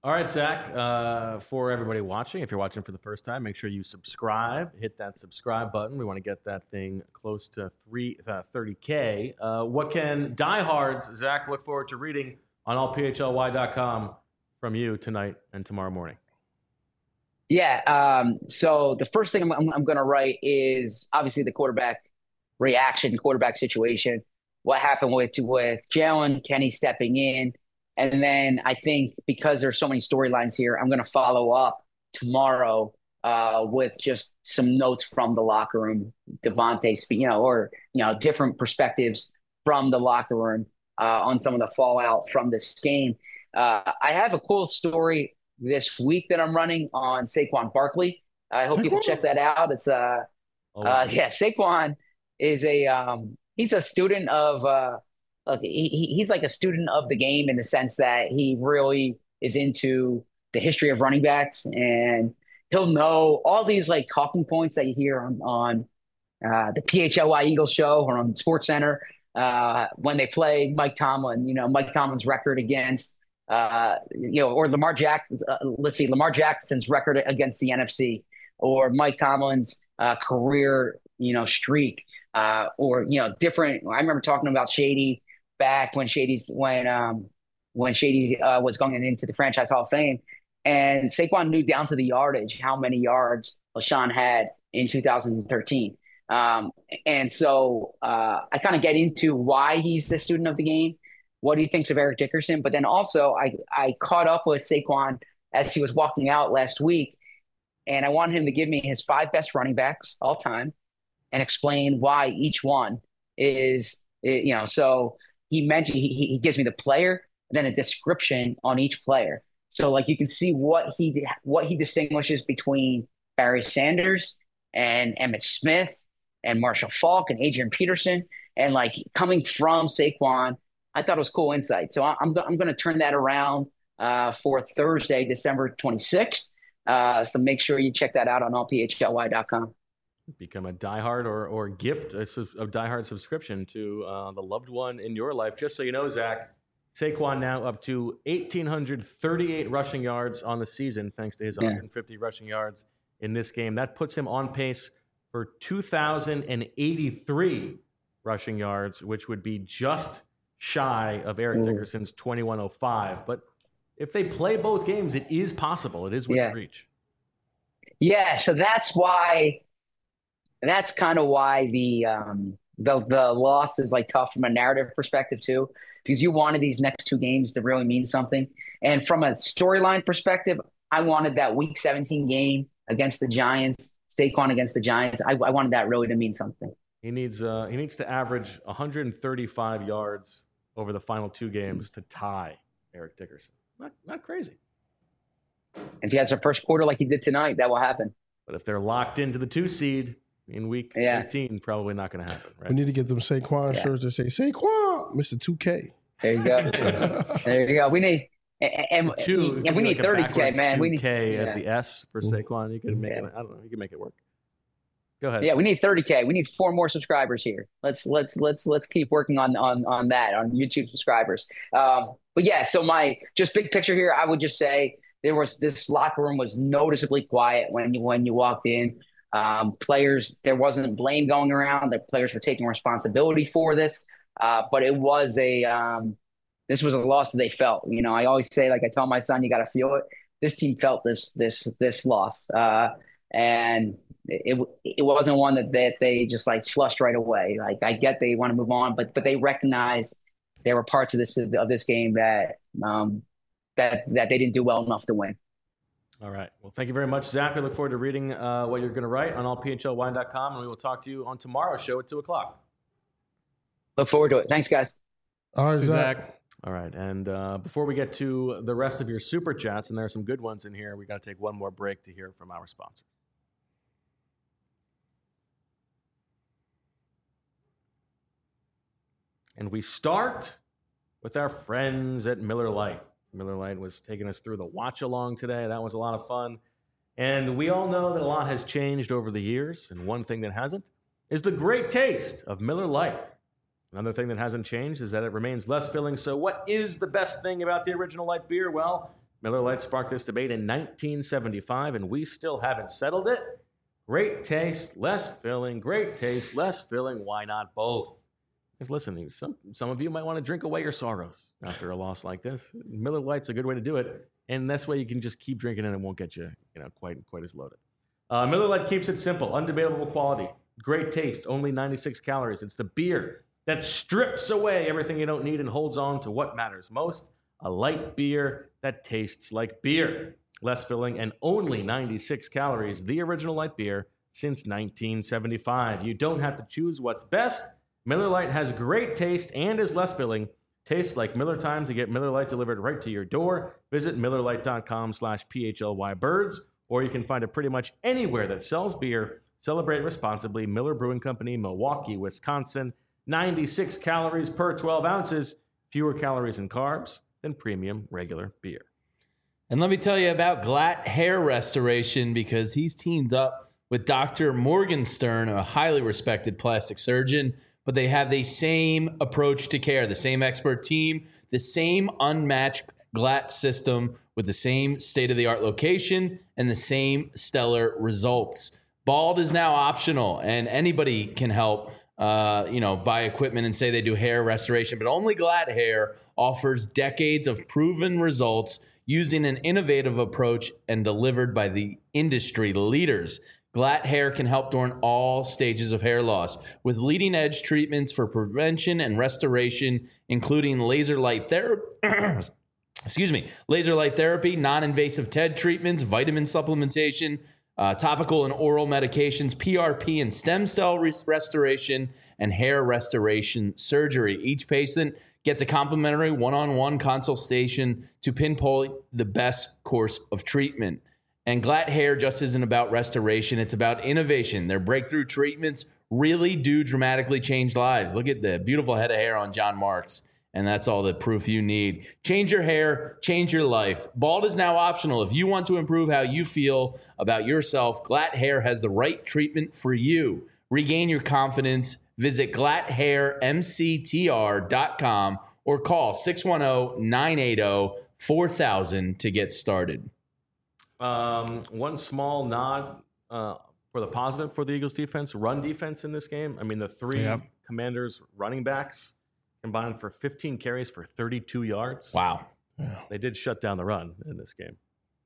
All right, Zach, for everybody watching, if you're watching for the first time, make sure you subscribe. Hit that subscribe button. We want to get that thing close to 30K. What can diehards, Zach, look forward to reading on allphly.com from you tonight and tomorrow morning? Yeah. So the first thing I'm going to write is obviously the quarterback reaction, quarterback situation. What happened with Jalen, Kenny stepping in. And then I think because there's so many storylines here, I'm going to follow up tomorrow with just some notes from the locker room, Devontae, different perspectives from the locker room on some of the fallout from this game. I have a cool story this week that I'm running on Saquon Barkley. I hope people check that out. It's Saquon is he's a student of he's like a student of the game in the sense that he really is into the history of running backs, and he'll know all these like talking points that you hear on the PHLY Eagles show or on SportsCenter when they play Mike Tomlin. Mike Tomlin's record against or Lamar Jackson's record against the NFC, or Mike Tomlin's career streak, or different. I remember talking about Shady back when Shady was going into the Franchise Hall of Fame, and Saquon knew down to the yardage how many yards LaShawn had in 2013. And so I kind of get into why he's the student of the game, what he thinks of Eric Dickerson, but then also I caught up with Saquon as he was walking out last week, and I wanted him to give me his 5 best running backs all time and explain why each one is, so he mentioned he gives me the player, then a description on each player. So like you can see what he distinguishes between Barry Sanders and Emmitt Smith and Marshall Faulk and Adrian Peterson, and like coming from Saquon, I thought it was cool insight. So I'm going to turn that around for Thursday, December 26th. So make sure you check that out on allphly.com. Become a diehard or gift a diehard subscription to the loved one in your life. Just so you know, Zach, Saquon now up to 1,838 rushing yards on the season, thanks to his 150 rushing yards in this game. That puts him on pace for 2,083 rushing yards, which would be just shy of Eric Dickerson's 2,105. But if they play both games, it is possible. It is within reach. Yeah, so that's kind of why the loss is like tough from a narrative perspective too, because you wanted these next 2 games to really mean something. And from a storyline perspective, I wanted that Week 17 game against the Giants, Saquon against the Giants. I wanted that really to mean something. He needs to average 135 yards over the final 2 games to tie Eric Dickerson. Not crazy. If he has a first quarter like he did tonight, that will happen. But if they're locked into the 2 seed in week 18, probably not going to happen. Right? We need to get them Saquon shirts that say Saquon, Mr. 2K. There you go. There you go. We need and we need 30K, man. We need K as the S for Saquon. You can make it. I don't know. You can make it work. Go ahead. Yeah, we need 30K. We need 4 more subscribers here. Let's keep working on that, on YouTube subscribers. But yeah, so my just big picture here, I would just say this locker room was noticeably quiet when you walked in. Players, there wasn't blame going around. The players were taking responsibility for this, but it was this was a loss that they felt. I always say, like I tell my son, you got to feel it. This team felt this loss, and it wasn't one that they just like flushed right away. Like I get they want to move on, but they recognized there were parts of this game that they didn't do well enough to win. All right. Well, thank you very much, Zach. We look forward to reading what you're going to write on allphly.com, and we will talk to you on tomorrow's show at 2:00. Look forward to it. Thanks, guys. All right, Zach. All right. And before we get to the rest of your super chats, and there are some good ones in here, we got to take one more break to hear from our sponsor. And we start with our friends at Miller Lite. Miller Lite was taking us through the watch along today. That was a lot of fun. And we all know that a lot has changed over the years. And one thing that hasn't is the great taste of Miller Lite. Another thing that hasn't changed is that it remains less filling. So what is the best thing about the original light beer? Well, Miller Lite sparked this debate in 1975, and we still haven't settled it. Great taste, less filling. Great taste, less filling. Why not both? If listening, some of you might want to drink away your sorrows after a loss like this. Miller Lite's a good way to do it, and that's way you can just keep drinking and it won't get you, quite as loaded. Miller Lite keeps it simple, undebatable quality, great taste, only 96 calories. It's the beer that strips away everything you don't need and holds on to what matters most. A light beer that tastes like beer. Less filling and only 96 calories. The original light beer since 1975. You don't have to choose what's best. Miller Lite has great taste and is less filling. Tastes like Miller time to get Miller Lite delivered right to your door. Visit MillerLite.com/PHLYBirds, or you can find it pretty much anywhere that sells beer. Celebrate responsibly. Miller Brewing Company, Milwaukee, Wisconsin. 96 calories per 12 ounces. Fewer calories and carbs than premium regular beer. And let me tell you about Glatt Hair Restoration, because he's teamed up with Dr. Morgenstern, a highly respected plastic surgeon, but they have the same approach to care, the same expert team, the same unmatched Glatt system with the same state-of-the-art location and the same stellar results. Bald is now optional, and anybody can help buy equipment and say they do hair restoration, but only Glatt Hair offers decades of proven results using an innovative approach and delivered by the industry leaders. Glatt Hair can help during all stages of hair loss with leading-edge treatments for prevention and restoration, including laser light therapy, non-invasive TED treatments, vitamin supplementation, topical and oral medications, PRP and stem cell restoration, and hair restoration surgery. Each patient gets a complimentary one-on-one consultation to pinpoint the best course of treatment. And Glatt Hair just isn't about restoration, it's about innovation. Their breakthrough treatments really do dramatically change lives. Look at the beautiful head of hair on John Marks, and that's all the proof you need. Change your hair, change your life. Bald is now optional. If you want to improve how you feel about yourself, Glatt Hair has the right treatment for you. Regain your confidence. Visit glatthairmctr.com or call 610-980-4000 to get started. One small nod for the positive for the Eagles defense, run defense in this game. I mean, the three Commanders running backs combined for 15 carries for 32 yards. Wow. They did shut down the run in this game.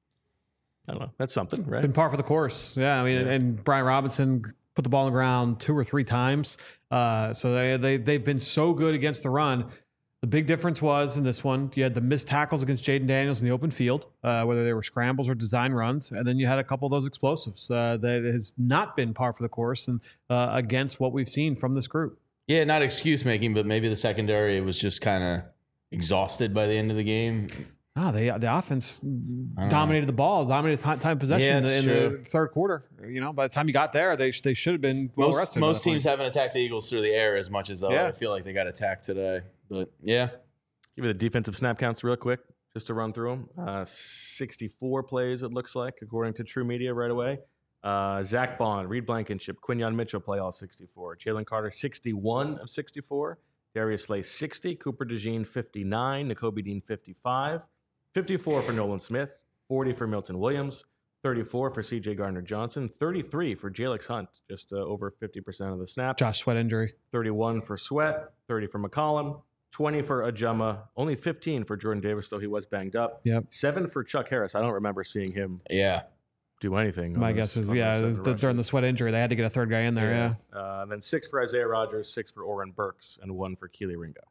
I don't know. That's something, right? Been par for the course. Yeah, I mean, and Brian Robinson put the ball on the ground 2 or 3 times. So they've been so good against the run. The big difference was in this one, you had the missed tackles against Jaden Daniels in the open field, whether they were scrambles or design runs, and then you had a couple of those explosives that has not been par for the course and against what we've seen from this group. Yeah, not excuse making, but maybe the secondary was just kind of exhausted by the end of the game. The offense dominated the ball, dominated time possession in the third quarter. By the time you got there, they should have been well rested. Most teams haven't attacked the Eagles through the air as much as I feel like they got attacked today. But yeah, give me the defensive snap counts real quick, just to run through them. 64 plays it looks like, according to True Media right away. Zach Bond, Reed Blankenship, Quinyon Mitchell play all 64. Jalen Carter 61 of 64. Darius Slay 60. Cooper DeJean 59. Nakobe Dean 55. 54 for Nolan Smith, 40 for Milton Williams, 34 for C.J. Gardner-Johnson, 33 for Jalix Hunt, just over 50% of the snaps. Josh Sweat injury. 31 for Sweat, 30 for McCollum, 20 for Ajama, only 15 for Jordan Davis, though he was banged up. 7 for Chuck Harris. I don't remember seeing him do anything. My guess is, during the Sweat injury, they had to get a third guy in there, And then 6 for Isaiah Rodgers, 6 for Oren Burks, and 1 for Keely Ringo.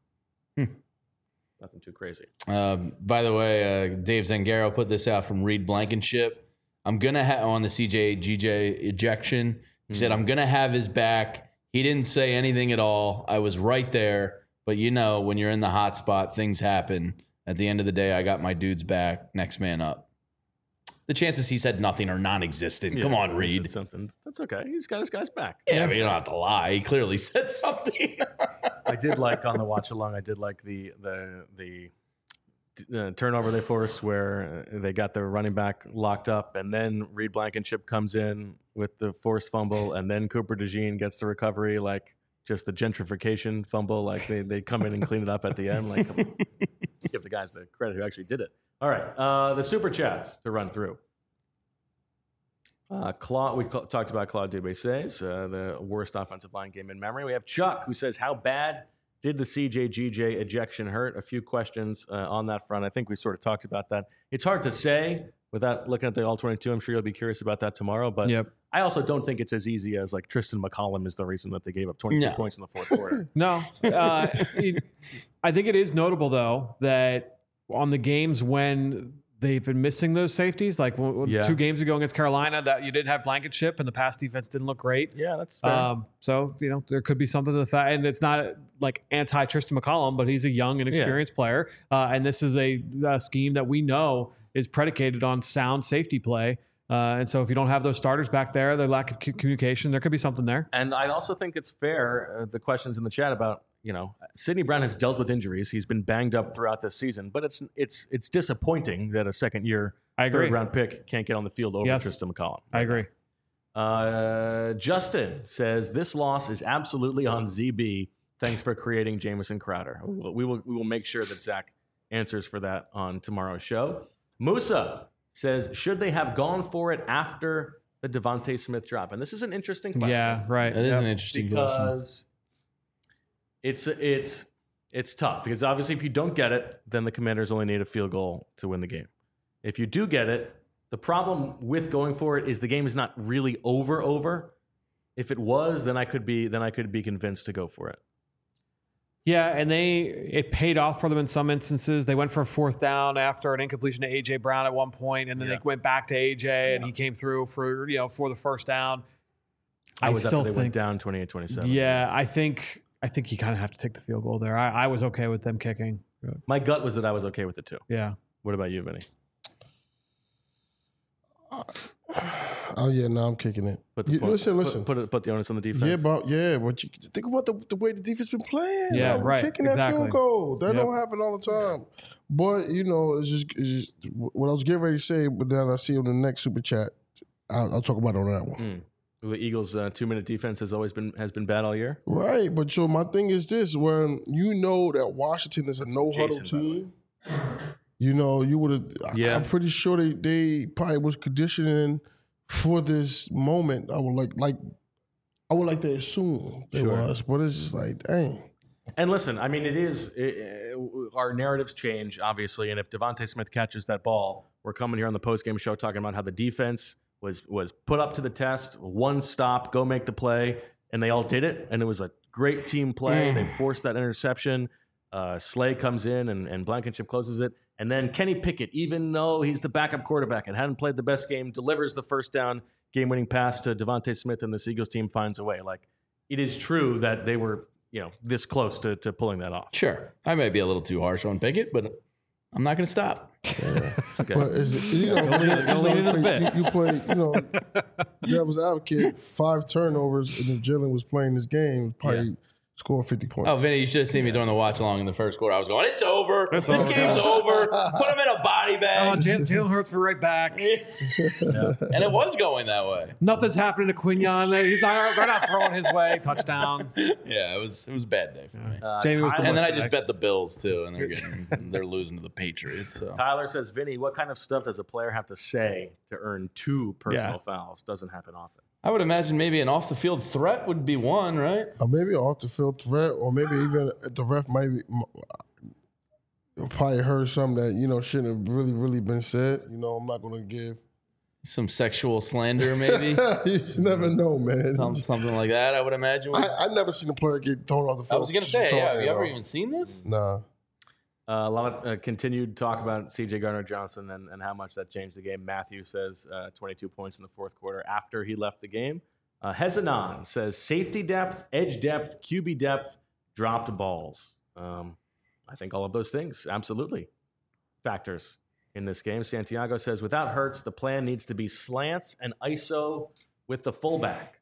Nothing too crazy. By the way, Dave Zangaro put this out from Reed Blankenship. I'm going to have on the CJ GJ ejection. He said, I'm going to have his back. He didn't say anything at all. I was right there. But when you're in the hot spot, things happen. At the end of the day, I got my dude's back. Next man up. The chances he said nothing are non-existent. Yeah, come on, Reed. Something. That's okay. He's got his guy's back. Yeah, but you don't have to lie. He clearly said something. I did like on the watch along. I did like the turnover they forced where they got their running back locked up, and then Reed Blankenship comes in with the forced fumble, and then Cooper DeJean gets the recovery like just the gentrification fumble. Like they come in and clean it up at the end. Like, come on. Give the guys the credit who actually did it. All right, the super chats to run through. Claude, we talked about Claude Dubois-Says, the worst offensive line game in memory. We have Chuck, who says, how bad did the CJ-GJ ejection hurt? A few questions on that front. I think we sort of talked about that. It's hard to say without looking at the All-22. I'm sure you'll be curious about that tomorrow. But I also don't think it's as easy as, like, Tristan McCollum is the reason that they gave up 22 points in the fourth quarter. No. I think it is notable, though, that on the games when they've been missing those safeties, like 2 games ago against Carolina, that you didn't have Blankenship and the pass defense didn't look great. Yeah, that's fair. So, there could be something to the fact, and it's not like anti-Tristan McCollum, but he's a young and experienced player. And this is a scheme that we know is predicated on sound safety play. And so if you don't have those starters back there, the lack of communication, there could be something there. And I also think it's fair, the questions in the chat about, Sidney Brown has dealt with injuries. He's been banged up throughout this season, but it's disappointing that a second-year third-round pick can't get on the field over Tristan McCollum. I agree. Justin says, this loss is absolutely on ZB. Thanks for creating Jamison Crowder. We will make sure that Zach answers for that on tomorrow's show. Musa says, should they have gone for it after the Devontae Smith drop? And this is an interesting question. Yeah, right. That is an interesting question. Because it's tough. Because obviously if you don't get it, then the Commanders only need a field goal to win the game. If you do get it, the problem with going for it is the game is not really over. If it was, then I could be convinced to go for it. Yeah, and it paid off for them in some instances. They went for a fourth down after an incompletion to A.J. Brown at one point, and then they went back to A.J., and he came through for the first down. I still think they went down 28-27. Yeah, I think you kind of have to take the field goal there. I was okay with them kicking. My gut was that I was okay with it too. Yeah. What about you, Vinny? I'm kicking it. Listen. Put the onus on the defense. But you think about the way the defense been playing. Yeah, right. Kicking that field goal. That don't happen all the time. But it's just what I was getting ready to say. But then I see on the next super chat, I'll talk about it on that one. The Eagles' 2-minute defense has been bad all year. Right, but so my thing is this: when you know that Washington is a no huddle team. You would have. Yeah. I'm pretty sure they probably was conditioning for this moment. I would like to assume it was, but it's just like, dang. And listen, I mean, our narratives change obviously, and if Devontae Smith catches that ball, we're coming here on the post-game show talking about how the defense was put up to the test. One stop, go make the play, and they all did it, and it was a great team play. They forced that interception. Slay comes in and Blankenship closes it. And then Kenny Pickett, even though he's the backup quarterback and hadn't played the best game, delivers the first down game-winning pass to Devontae Smith, and this Eagles team finds a way. Like, it is true that they were, this close to pulling that off. Sure. I may be a little too harsh on Pickett, but I'm not going to stop. Yeah. Okay. But you play, devil's advocate, 5 turnovers, and if Jalen was playing this game, probably score 50 points. Oh, Vinny, you should have seen me during the watch along in the first quarter. I was going, it's over. This game's over. Put him in a body bag. Oh, Jalen Hurts were right back. And it was going that way. Nothing's happening to Quignon. They're not throwing his way. Touchdown. Yeah, it was a bad day for me. Jamie was and then I just bet the Bills too, and they're losing to the Patriots. So. Tyler says, Vinny, what kind of stuff does a player have to say to earn 2 personal fouls? Doesn't happen often. I would imagine maybe an off-the-field threat would be one, right? Or maybe an off-the-field threat, or maybe even the ref probably heard something that, shouldn't have really been said. I'm not going to give. Some sexual slander, maybe? You never know, man. Something like that, I would imagine. I never seen a player get thrown off the field. I was going to say, have you ever even seen this? Nah. A lot of continued talk about C.J. Gardner-Johnson and how much that changed the game. Matthew says 22 points in the fourth quarter after he left the game. Hezanon says safety depth, edge depth, QB depth, dropped balls. I think all of those things, absolutely, factors in this game. Santiago says without Hurts, the plan needs to be slants and ISO with the fullback.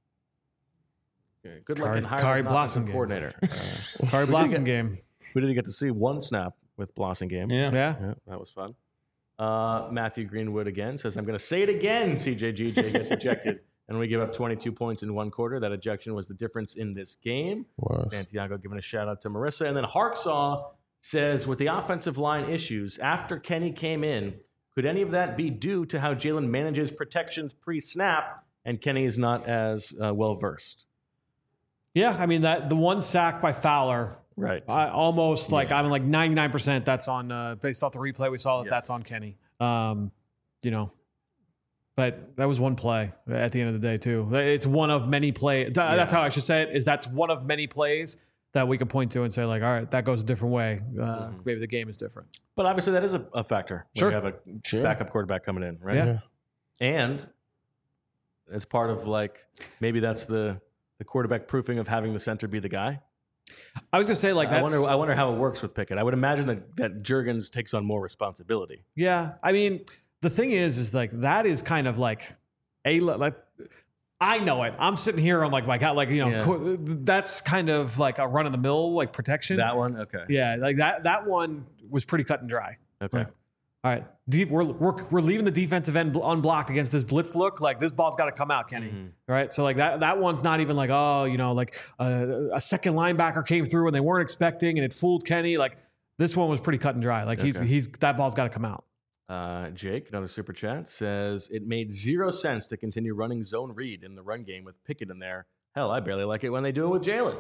Good luck in hiring an offensive coordinator. Kari Blossom game. We didn't get to see one snap with Blossingame. Yeah, that was fun. Matthew Greenwood again says, I'm going to say it again, CJ-GJ gets ejected. and we give up 22 points in one quarter. That ejection was the difference in this game. Wow. Santiago giving a shout out to Marissa. And then Harksaw says, with the offensive line issues, after Kenny came in, could any of that be due to how Jalen manages protections pre-snap and Kenny is not as well-versed? Yeah, I mean, the one sack by Fowler, right? Almost like, I'm like 99% that's on, based off the replay we saw, that's on Kenny. But that was one play at the end of the day, too. It's one of many plays. That's how I should say it, is that's one of many plays that we could point to and say, like, all right, that goes a different way. Maybe the game is different. But obviously that is a factor when you have a backup quarterback coming in, right? Yeah. And as part of, like, maybe that's the quarterback proofing of having the center be the guy. I was going to say, like, I wonder how it works with Pickett. I would imagine that Juergens takes on more responsibility. Yeah. I mean, the thing is like, that is kind of like I know it. I'm sitting here on like, that's kind of like a run of the mill, like protection. That one. Okay. Yeah. Like that one was pretty cut and dry. Okay. Like, all right. We're leaving the defensive end unblocked against this blitz look. Like, this ball's got to come out, Kenny. Right. So like that one's not even like, a second linebacker came through and they weren't expecting and it fooled Kenny. Like, this one was pretty cut and dry. Like, he's that ball's got to come out. Jake, another super chat, says it made 0 sense to continue running zone read in the run game with Pickett in there. Hell, I barely like it when they do it with Jalen.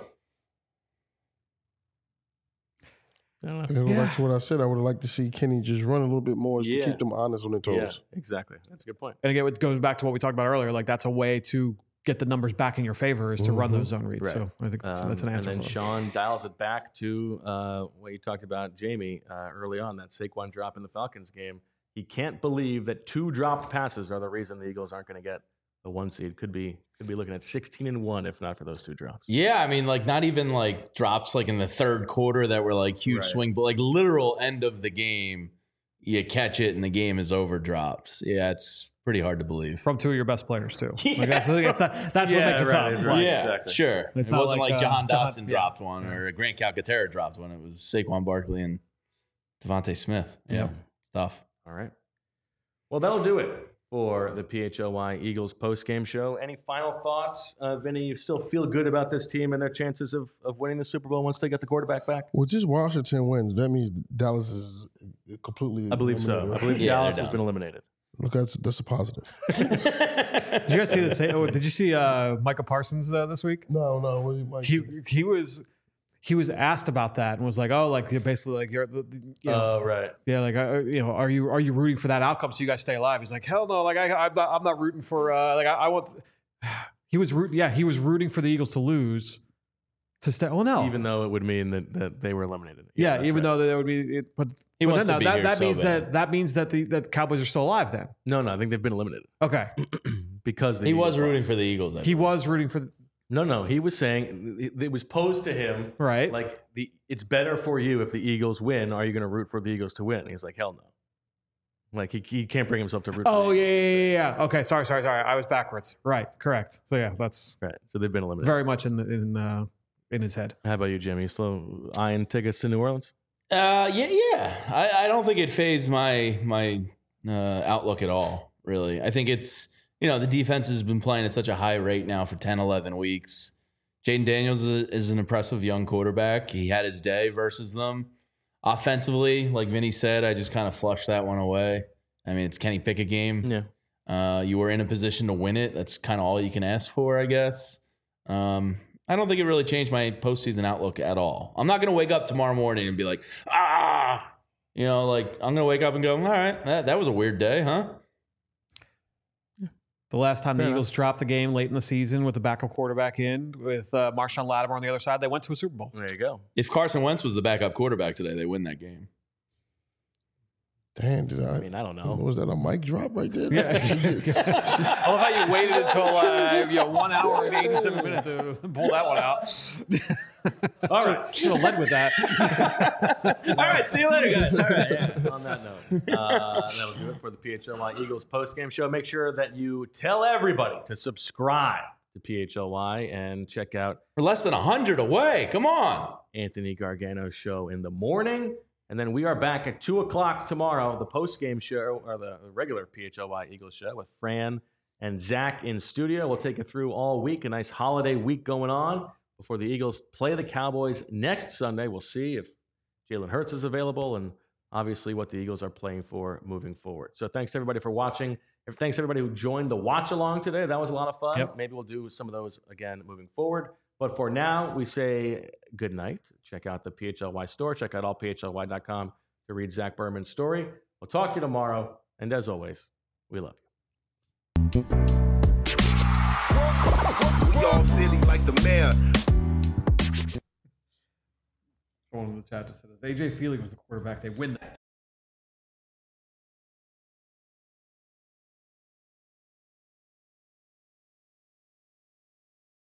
Back to what I said, I would have liked to see Kenny just run a little bit more to keep them honest on their toes. Yeah, exactly. That's a good point. And again, it goes back to what we talked about earlier. Like, that's a way to get the numbers back in your favor, is to run those zone reads. Right. So I think that's an answer. And then Sean dials it back to what you talked about, Jamie, early on, that Saquon drop in the Falcons game. He can't believe that 2 dropped passes are the reason the Eagles aren't going to get the 1 seed. Could be looking at 16-1 if not for those 2 drops. Yeah, I mean, like, not even like drops like in the third quarter that were like huge swing, but like literal end of the game, you catch it and the game is over drops. Yeah, it's pretty hard to believe. From 2 of your best players too. Like, that's what makes it tough. Right, yeah, exactly. Sure. It's it wasn't like Jahan Dotson dropped one or Grant Calcaterra dropped one. It was Saquon Barkley and Devontae Smith. Yeah, it's tough. All right. Well, that'll do it for the PHLY Eagles post-game show. Any final thoughts, Vinny? You still feel good about this team and their chances of winning the Super Bowl once they get the quarterback back? Well, just Washington wins. That means Dallas is completely eliminated. So. I believe Dallas has been eliminated. Look, that's a positive. Did you guys see the? Did you see Micah Parsons this week? No. He was asked about that and was like, "Oh, like, basically, like, you're, right, yeah, like, are you rooting for that outcome so you guys stay alive?" He's like, "Hell no, like, I'm not rooting for like, I want." He was rooting for the Eagles to lose to stay. Well, no, even though it would mean that they were eliminated. Yeah, even though that would be. But he wants to be here. That means that the Cowboys are still alive. Then no, I think they've been eliminated. Okay, because he was rooting for the Eagles. He was rooting for. No. He was saying it was posed to him, right? Like, it's better for you if the Eagles win. Are you going to root for the Eagles to win? And he's like, hell no. Like, he can't bring himself to root. Oh, yeah. Okay, sorry. I was backwards. Right, correct. So yeah, that's right. So they've been eliminated. Very much in his head. How about you, Jimmy? You still eyeing tickets to New Orleans? Yeah. I don't think it fazed my outlook at all. Really, I think it's. The defense has been playing at such a high rate now for 10, 11 weeks. Jaden Daniels is an impressive young quarterback. He had his day versus them. Offensively, like Vinny said, I just kind of flushed that one away. I mean, it's Kenny Pickett game. Yeah. You were in a position to win it. That's kind of all you can ask for, I guess. I don't think it really changed my postseason outlook at all. I'm not going to wake up tomorrow morning and be like, I'm going to wake up and go, all right, that was a weird day, huh? The last time the Eagles dropped a game late in the season with the backup quarterback in, with Marshawn Lattimore on the other side, they went to a Super Bowl. There you go. If Carson Wentz was the backup quarterback today, they win that game. Damn, did I? I mean, I don't know. Was that a mic drop right there? Yeah. I love how you waited until 1 hour and 87 minutes to pull that one out. All right. Should have led with that. All right. See you later, guys. All right. Yeah. On that note, that'll do it for the PHLY Eagles postgame show. Make sure that you tell everybody to subscribe to PHLY and check out. We're less than 100 away. Come on. Anthony Gargano's show in the morning. And then we are back at 2 o'clock tomorrow, the post-game show, or the regular PHLY Eagles show with Fran and Zach in studio. We'll take you through all week. A nice holiday week going on before the Eagles play the Cowboys next Sunday. We'll see if Jalen Hurts is available and obviously what the Eagles are playing for moving forward. So thanks everybody for watching. Thanks everybody who joined the watch along today. That was a lot of fun. Yep. Maybe we'll do some of those again moving forward. But for now, we say good night. Check out the PHLY store. Check out allphly.com to read Zach Berman's story. We'll talk to you tomorrow. And as always, we love you. We all silly like the mayor. Someone in the chat just said if AJ Feely was the quarterback, they win that.